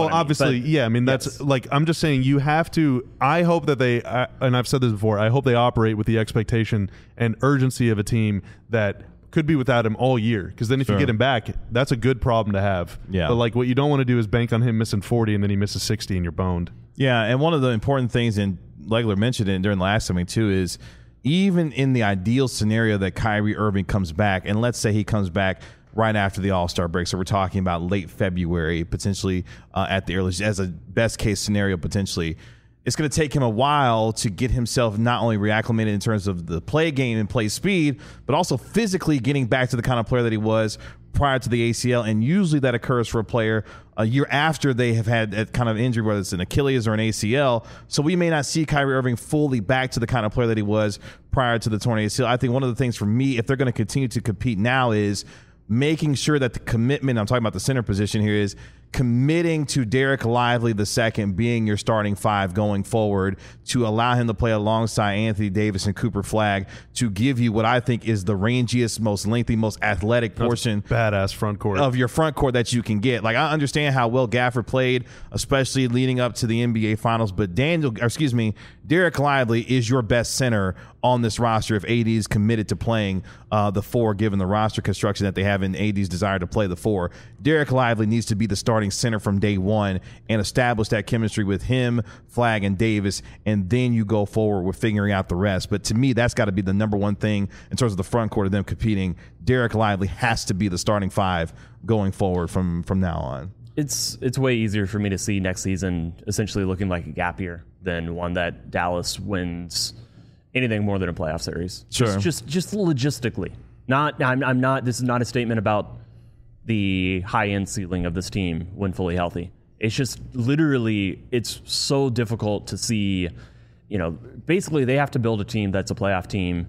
I'm just saying you have to. I hope that they, and I've said this before, I hope they operate with the expectation and urgency of a team that could be without him all year, because then if you get him back, that's a good problem to have. Yeah. But what you don't want to do is bank on him missing 40 and then he misses 60 and you're boned. Yeah, and one of the important things, and Legler mentioned it during the last segment too, is even in the ideal scenario that Kyrie Irving comes back, and let's say he comes back right after the All-Star break, so we're talking about late February, potentially at the earliest, as a best case scenario potentially. It's going to take him a while to get himself not only reacclimated in terms of the play game and play speed, but also physically getting back to the kind of player that he was prior to the ACL. And usually that occurs for a player a year after they have had that kind of injury, whether it's an Achilles or an ACL. So we may not see Kyrie Irving fully back to the kind of player that he was prior to the torn ACL. I think one of the things for me, if they're going to continue to compete now, is making sure that the commitment, I'm talking about the center position here, is committing to Derek Lively II being your starting five going forward, to allow him to play alongside Anthony Davis and Cooper Flagg, to give you what I think is the rangiest, most lengthy, most athletic portion badass front court of your front court that you can get. I understand how well Gafford played, especially leading up to the NBA Finals, but Derek Lively is your best center on this roster if AD is committed to playing the four, given the roster construction that they have and AD's desire to play the four. Derek Lively needs to be the starting center from day one and establish that chemistry with him, Flagg, and Davis, and then you go forward with figuring out the rest. But to me, that's got to be the number one thing in terms of the front court of them competing. Derek Lively has to be the starting five going forward from now on. It's way easier for me to see next season essentially looking like a gap year than one that Dallas wins anything more than a playoff series. Sure. Just logistically. I'm not. This is not a statement about the high-end ceiling of this team when fully healthy. It's just literally, it's so difficult to see. Basically they have to build a team that's a playoff team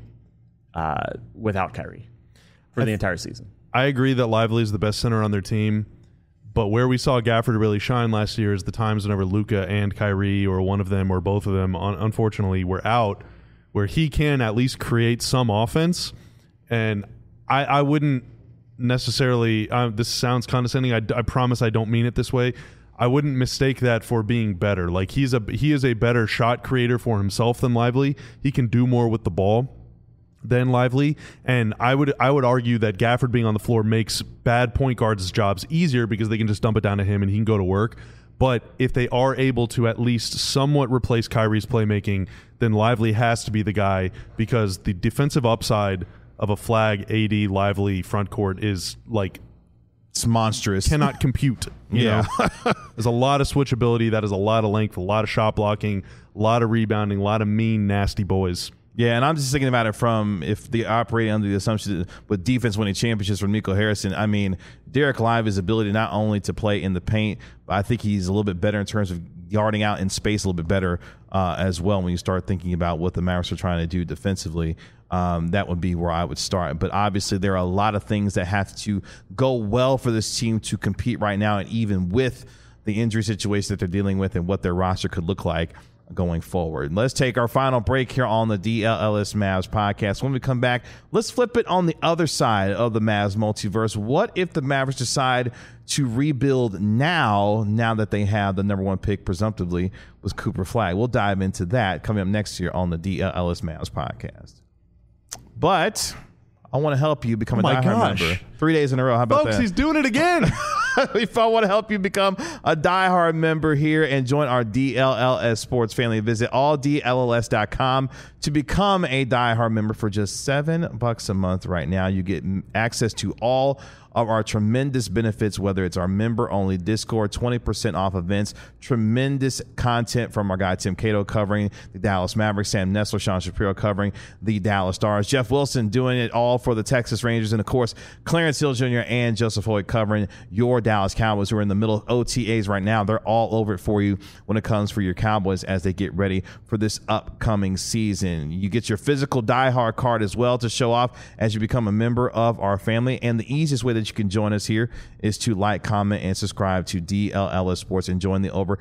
without Kyrie for the entire season. I agree that Lively is the best center on their team. But where we saw Gafford really shine last year is the times whenever Luka and Kyrie, or one of them or both of them, unfortunately, were out, where he can at least create some offense. And I wouldn't necessarily, this sounds condescending, I promise I don't mean it this way, I wouldn't mistake that for being better. He is a better shot creator for himself than Lively. He can do more with the ball than Lively, and I would argue that Gafford being on the floor makes bad point guards' jobs easier because they can just dump it down to him and he can go to work. But if they are able to at least somewhat replace Kyrie's playmaking, then Lively has to be the guy, because the defensive upside of a Flagg, AD, Lively front court is it's monstrous. Cannot compute. You know? There's a lot of switchability. That is a lot of length, a lot of shot blocking, a lot of rebounding, a lot of mean, nasty boys. Yeah, and I'm just thinking about it from if they operating under the assumption that with defense winning championships from Nico Harrison. I mean, Derek Lively's ability not only to play in the paint, but I think he's a little bit better in terms of yarding out in space a little bit better as well when you start thinking about what the Mavericks are trying to do defensively. That would be where I would start. But obviously there are a lot of things that have to go well for this team to compete right now, and even with the injury situation that they're dealing with and what their roster could look like going forward. Let's take our final break here on the DLLS Mavs podcast. When we come back, let's flip it on the other side of the Mavs multiverse. What if the Mavericks decide to rebuild now that they have the number one pick presumptively with Cooper Flagg? We'll dive into that coming up next year on the DLLS Mavs podcast. But I want to help you become a diehard member. 3 days in a row. How about Folks, that? he's doing it again. If I want to help you become a diehard member here and join our DLLS sports family, visit alldlls.com to become a diehard member for just $7 a month right now. You get access to all of our tremendous benefits, whether it's our member-only Discord, 20% off events, tremendous content from our guy Tim Cato covering the Dallas Mavericks, Sam Nessler, Sean Shapiro covering the Dallas Stars, Jeff Wilson doing it all for the Texas Rangers, and of course, Clarence Hill Jr. and Joseph Hoyt covering your Dallas Cowboys, who are in the middle of OTAs right now. They're all over it for you when it comes for your Cowboys as they get ready for this upcoming season. You get your physical diehard card as well to show off as you become a member of our family, and the easiest way that you can join us here is to like, comment, and subscribe to DLLS Sports and join the over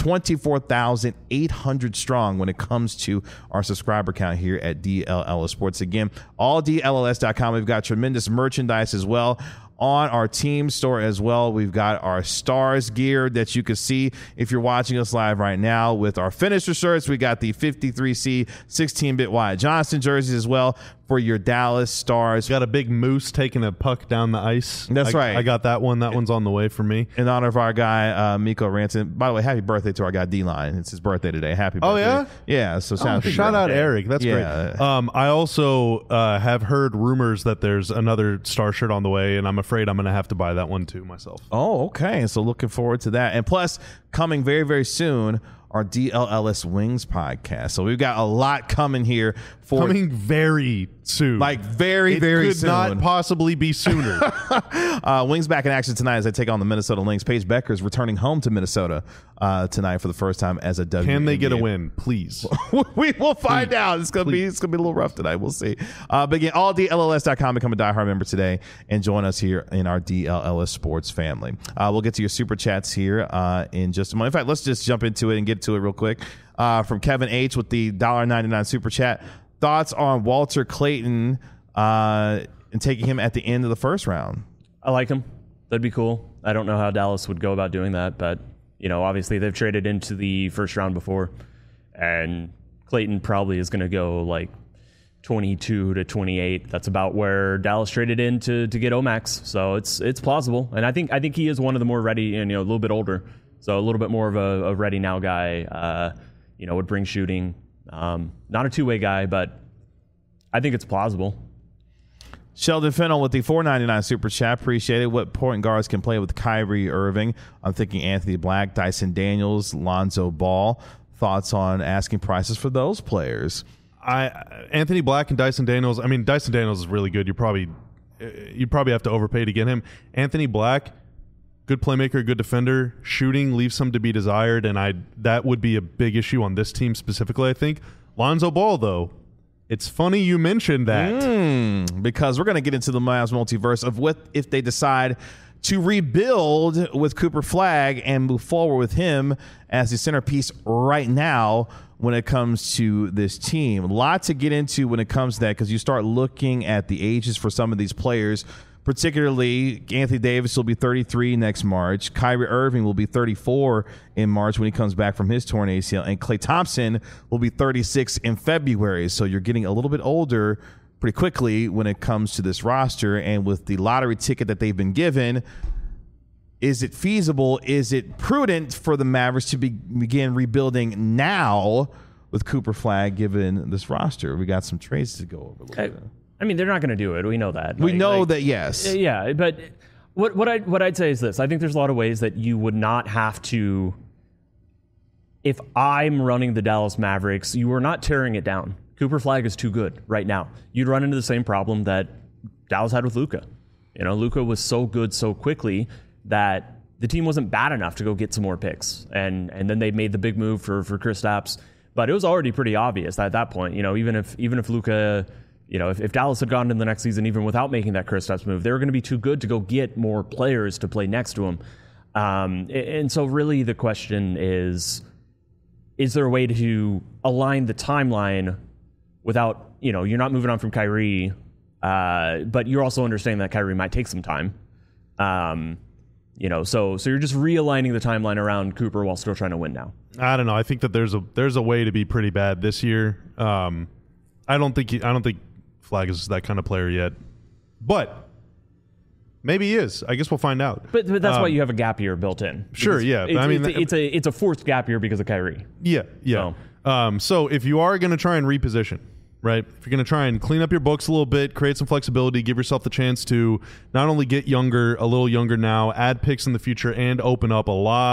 24,800 strong when it comes to our subscriber count here at DLLS Sports. Again, alldlls.com. We've got tremendous merchandise as well on our team store as well. We've got our Stars gear that you can see if you're watching us live right now with our finisher shirts. We got the 53C 16-bit Wyatt Johnson jerseys as well for your Dallas Stars. Got a big moose taking a puck down the ice. That's right. I got that one. That one's on the way for me. In honor of our guy, Miko Ranson. By the way, happy birthday to our guy, D-Line. It's his birthday today. Happy birthday. Oh, yeah? Yeah. So shout out Eric. That's great. I also have heard rumors that there's another Star shirt on the way, and I'm afraid I'm going to have to buy that one too myself. Oh, okay. So looking forward to that. And plus, coming very, very soon, our DLLS Wings podcast. So we've got a lot coming here for coming very soon. Like very, very soon. Could not possibly be sooner. Wings back in action tonight as they take on the Minnesota Lynx. Paige Becker is returning home to Minnesota tonight for the first time as a WNBA. Can they get a win, please? We will find out. It's gonna be a little rough tonight. We'll see. But again, alldlls.com. Become a diehard member today and join us here in our DLLS Sports family. We'll get to your super chats here in just a moment. In fact, let's just jump into it and get to it real quick. From Kevin H with the $1.99 super chat. Thoughts on Walter Clayton and taking him at the end of the first round? I like him. That'd be cool. I don't know how Dallas would go about doing that, but obviously they've traded into the first round before, and Clayton probably is going to go like 22 to 28. That's about where Dallas traded in to get Omax. So it's plausible, and I think he is one of the more ready and a little bit older, so a little bit more of a ready now guy. Would bring shooting. Not a two-way guy, but I think it's plausible. Sheldon Fennell with the $4.99 super chat. Appreciate it. What point guards can play with Kyrie Irving? I'm thinking Anthony Black, Dyson Daniels, Lonzo Ball. Thoughts on asking prices for those players? Anthony Black and Dyson Daniels. I mean, Dyson Daniels is really good. You probably have to overpay to get him. Anthony Black, good playmaker, good defender. Shooting leaves some to be desired, and that would be a big issue on this team specifically, I think. Lonzo Ball, though, it's funny you mentioned that. Because we're going to get into the Mavs multiverse of what if they decide to rebuild with Cooper Flagg and move forward with him as the centerpiece right now when it comes to this team. A lot to get into when it comes to that, because you start looking at the ages for some of these players. Particularly, Anthony Davis will be 33 next March. Kyrie Irving will be 34 in March when he comes back from his torn ACL. And Klay Thompson will be 36 in February. So you're getting a little bit older pretty quickly when it comes to this roster. And with the lottery ticket that they've been given, is it feasible? Is it prudent for the Mavericks to begin rebuilding now with Cooper Flagg given this roster? We got some trades to go over a little bit. I mean, they're not going to do it. We know that. We know that, yes. Yeah, but what I'd say is this. I think there's a lot of ways that you would not have to. If I'm running the Dallas Mavericks, you are not tearing it down. Cooper Flag is too good right now. You'd run into the same problem that Dallas had with Luka. Luka was so good so quickly that the team wasn't bad enough to go get some more picks. And then they made the big move for Kristaps. But it was already pretty obvious at that point. Even if Luka, if Dallas had gone into the next season even without making that Kristaps move, they were going to be too good to go get more players to play next to him. And so really the question is there a way to align the timeline without, you're not moving on from Kyrie, but you're also understanding that Kyrie might take some time. So you're just realigning the timeline around Cooper while still trying to win now. I don't know. I think that there's a way to be pretty bad this year. I don't think Flag is that kind of player yet, but maybe he is. I guess we'll find out. But that's why you have a gap year built in. Sure, yeah. It's a forced gap year because of Kyrie. Yeah. So if you are going to try and reposition, right? If you're going to try and clean up your books a little bit, create some flexibility, give yourself the chance to not only get younger, a little younger now, add picks in the future, and open up a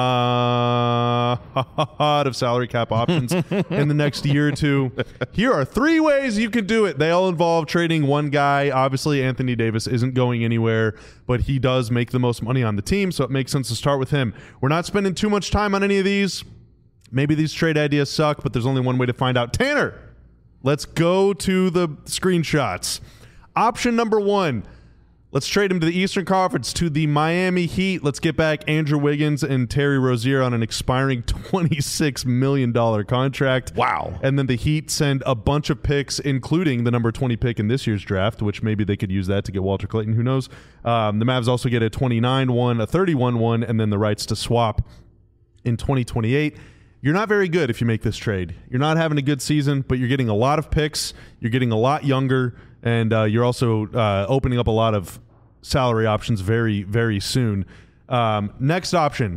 lot of salary cap options in the next year or two. Here are 3 ways you can do it. They all involve trading one guy. Obviously, Anthony Davis isn't going anywhere, but he does make the most money on the team, so it makes sense to start with him. We're not spending too much time on any of these. Maybe these trade ideas suck, but there's only one way to find out. Tanner, let's go to the screenshots. Option number 1, let's trade him to the Eastern Conference, to the Miami Heat. Let's get back Andrew Wiggins and Terry Rozier on an expiring $26 million contract. Wow. And then the Heat send a bunch of picks, including the number 20 pick in this year's draft, which maybe they could use that to get Walter Clayton. Who knows? The Mavs also get a 29-1, a 31-1, and then the rights to swap in 2028. You're not very good if you make this trade. You're not having a good season, but you're getting a lot of picks. You're getting a lot younger, and you're also opening up a lot of salary options very, very soon. Next option,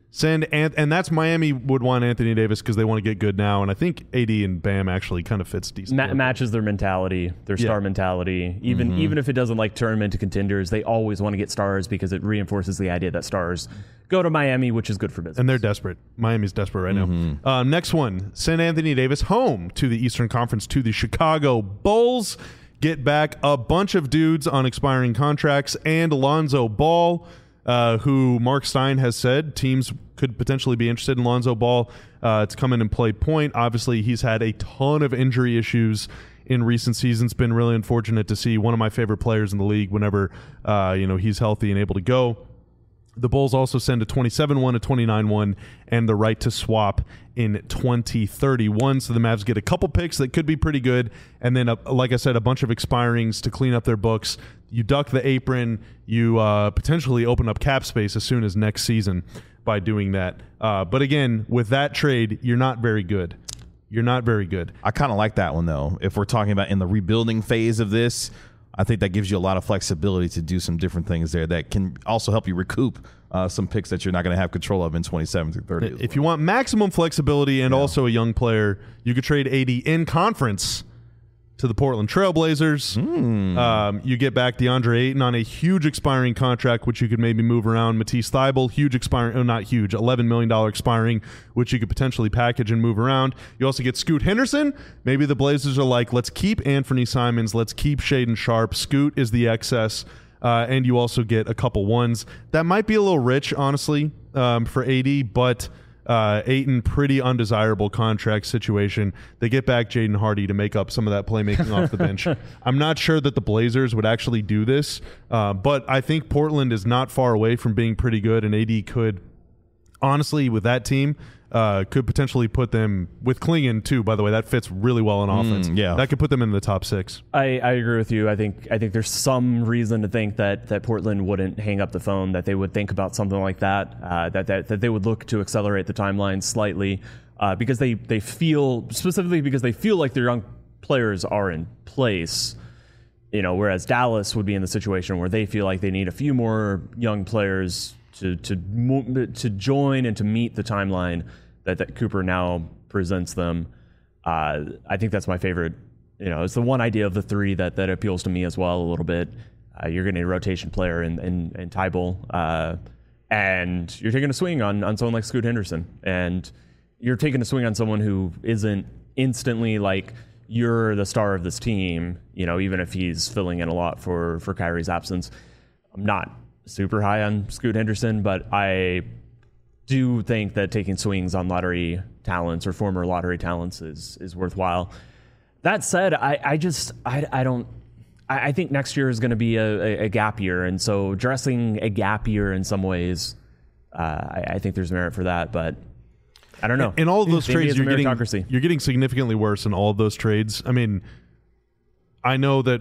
and that's Miami would want Anthony Davis because they want to get good now, and I think AD and Bam actually kind of fits decent. Matches their mentality, their star mentality. Even if it doesn't turn them into contenders, they always want to get stars because it reinforces the idea that stars go to Miami, which is good for business. And they're desperate. Miami's desperate right now. Next one, send Anthony Davis home to the Eastern Conference, to the Chicago Bulls. Get back a bunch of dudes on expiring contracts and Lonzo Ball, who Mark Stein has said teams could potentially be interested in Lonzo Ball to come in and play point. Obviously, he's had a ton of injury issues in recent seasons. Been really unfortunate to see one of my favorite players in the league whenever he's healthy and able to go. The Bulls also send a 27-1, a 29-1, and the right to swap in 2031. So the Mavs get a couple picks that could be pretty good, and then, like I said, a bunch of expirings to clean up their books. You duck the apron. You potentially open up cap space as soon as next season by doing that. But again, with that trade, you're not very good. You're not very good. I kind of like that one, though. If we're talking about in the rebuilding phase of this, I think that gives you a lot of flexibility to do some different things there that can also help you recoup some picks that you're not going to have control of in 27 through 30. If you want maximum flexibility and also a young player, you could trade AD in conference to the Portland Trailblazers. You get back DeAndre Ayton on a huge expiring contract, which you could maybe move around. Matisse Thybulle, huge expiring, not huge, $11 million expiring, which you could potentially package and move around. You also get Scoot Henderson. Maybe the Blazers are like, let's keep Anthony Simons, let's keep Shaedon Sharpe. Scoot is the excess. And you also get a couple ones. That might be a little rich, honestly, for AD, but Ayton, pretty undesirable contract situation. They get back Jaden Hardy to make up some of that playmaking off the bench. I'm not sure that the Blazers would actually do this, but I think Portland is not far away from being pretty good, and AD could, honestly, with that team, could potentially put them, with Klingon too, by the way, that fits really well in offense. That could put them in the top 6. I agree with you. I think there's some reason to think that Portland wouldn't hang up the phone, that they would think about something like that, that they would look to accelerate the timeline slightly, because they feel like their young players are in place. Whereas Dallas would be in the situation where they feel like they need a few more young players to join and to meet the timeline that Cooper now presents them. I think that's my favorite. It's the one idea of the 3 that appeals to me as well a little bit. You're getting a rotation player in Thybulle, and you're taking a swing on someone like Scoot Henderson, and you're taking a swing on someone who isn't instantly like you're the star of this team, even if he's filling in a lot for Kyrie's absence. I'm not super high on Scoot Henderson, but I do think that taking swings on lottery talents or former lottery talents is worthwhile. That said, I think next year is going to be a gap year, and so dressing a gap year in some ways, I think there's merit for that, but I don't know. In all of those trades, you're getting significantly worse in all of those trades. I mean, I know that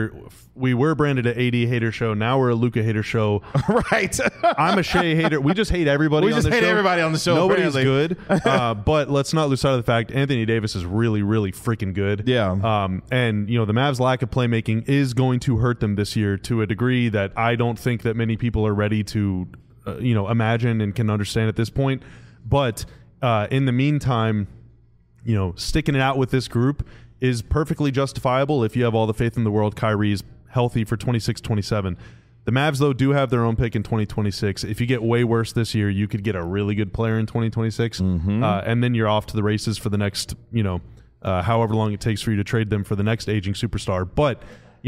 we were branded an AD hater show. Now we're a Luka hater show. Right. I'm a Shea hater. We just hate everybody on the show. We just hate everybody on the show. Nobody's apparently. good. But let's not lose sight of the fact Anthony Davis is really, really freaking good. Yeah. And, the Mavs' lack of playmaking is going to hurt them this year to a degree that I don't think that many people are ready to, imagine and can understand at this point. But in the meantime, sticking it out with this group is perfectly justifiable if you have all the faith in the world Kyrie's healthy for 26-27. The Mavs, though, do have their own pick in 2026. If you get way worse this year, you could get a really good player in 2026, and then you're off to the races for the next, however long it takes for you to trade them for the next aging superstar. But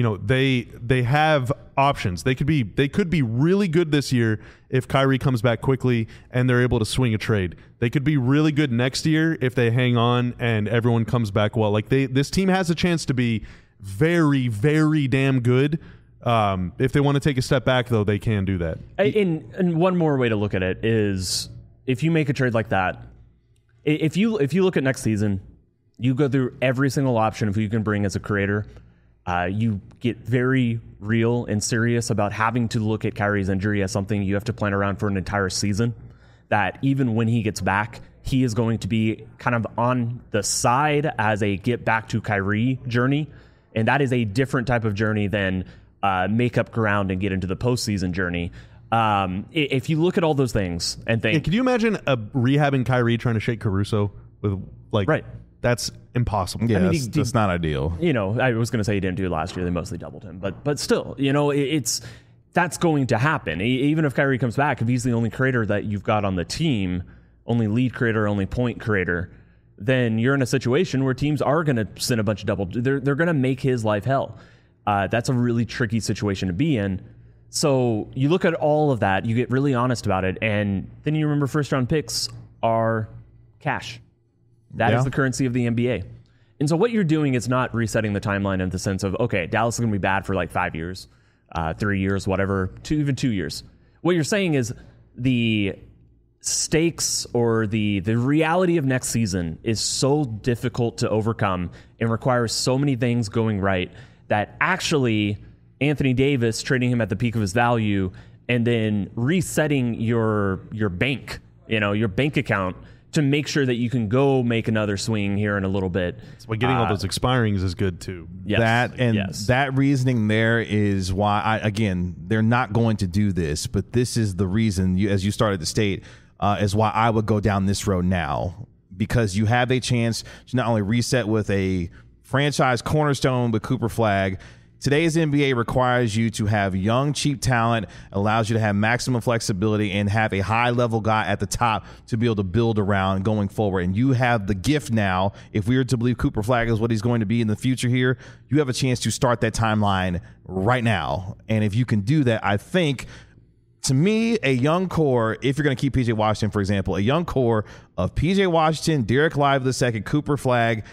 they have options. They could be really good this year if Kyrie comes back quickly and they're able to swing a trade. They could be really good next year if they hang on and everyone comes back well. Like this team has a chance to be very, very damn good. If they want to take a step back, though, they can do that. And one more way to look at it is if you make a trade like that, if you look at next season, you go through every single option of who you can bring as a creator. You get very real and serious about having to look at Kyrie's injury as something you have to plan around for an entire season. That even when he gets back, he is going to be kind of on the side as a get back to Kyrie journey. And that is a different type of journey than make up ground and get into the postseason journey. If you look at all those things and think... Can you imagine rehabbing Kyrie trying to shake Caruso with Right. That's impossible. Yeah, that's not ideal. I was going to say he didn't do it last year. They mostly doubled him. But still, that's going to happen. Even if Kyrie comes back, if he's the only creator that you've got on the team, only lead creator, only point creator, then you're in a situation where teams are going to send a bunch of double. They're going to make his life hell. That's a really tricky situation to be in. So you look at all of that, you get really honest about it, and then you remember first round picks are cash. That is the currency of the NBA. And so what you're doing is not resetting the timeline in the sense of, okay, Dallas is going to be bad for like 5 years, 3 years, whatever, even 2 years. What you're saying is the stakes or the reality of next season is so difficult to overcome and requires so many things going right that actually Anthony Davis, trading him at the peak of his value and then resetting your bank, your bank account to make sure that you can go make another swing here in a little bit. But getting all those expirings is good too. Yes. That reasoning there is why, they're not going to do this, but this is the reason, as you started to state, is why I would go down this road now, because you have a chance to not only reset with a franchise cornerstone with Cooper Flagg. Today's NBA requires you to have young, cheap talent, allows you to have maximum flexibility and have a high-level guy at the top to be able to build around going forward. And you have the gift now, if we were to believe Cooper Flagg is what he's going to be in the future here, you have a chance to start that timeline right now. And if you can do that, I think, to me, a young core, if you're going to keep P.J. Washington, for example, a young core of P.J. Washington, Derek Lively II, Cooper Flagg,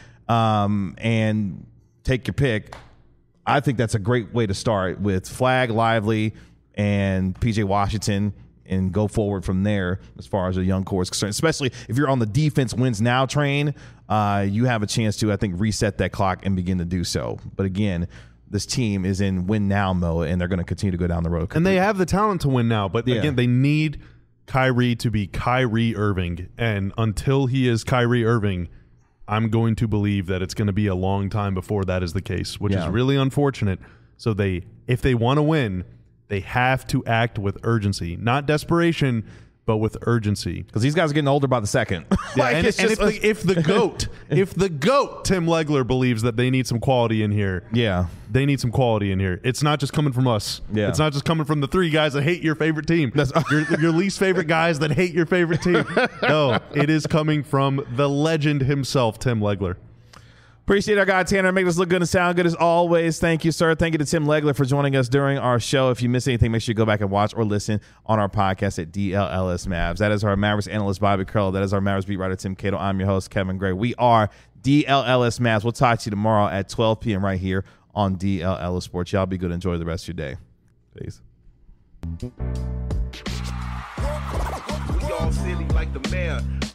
and take your pick, I think that's a great way to start with Flagg, Lively, and P.J. Washington and go forward from there as far as a young core is concerned. Especially if you're on the defense wins now train, you have a chance to, I think, reset that clock and begin to do so. But again, this team is in win now mode, and they're going to continue to go down the road. And they have the talent to win now. But again, they need Kyrie to be Kyrie Irving. And until he is Kyrie Irving, I'm going to believe that it's going to be a long time before that is the case, which is really unfortunate. So if they want to win, they have to act with urgency, not desperation, but with urgency. Because these guys are getting older by the second. If the GOAT, Tim Legler, believes that they need some quality in here, they need some quality in here. It's not just coming from us. It's not just coming from the three guys that hate your favorite team. Your least favorite guys that hate your favorite team. No, it is coming from the legend himself, Tim Legler. Appreciate our guy Tanner. Make us look good and sound good as always. Thank you, sir. Thank you to Tim Legler for joining us during our show. If you miss anything, make sure you go back and watch or listen on our podcast at DLLS Mavs. That is our Mavericks analyst, Bobby Curl. That is our Mavericks beat writer, Tim Cato. I'm your host, Kevin Gray. We are DLLS Mavs. We'll talk to you tomorrow at 12 p.m. right here on DLLS Sports. Y'all be good. Enjoy the rest of your day. Peace. We all silly like the mayor.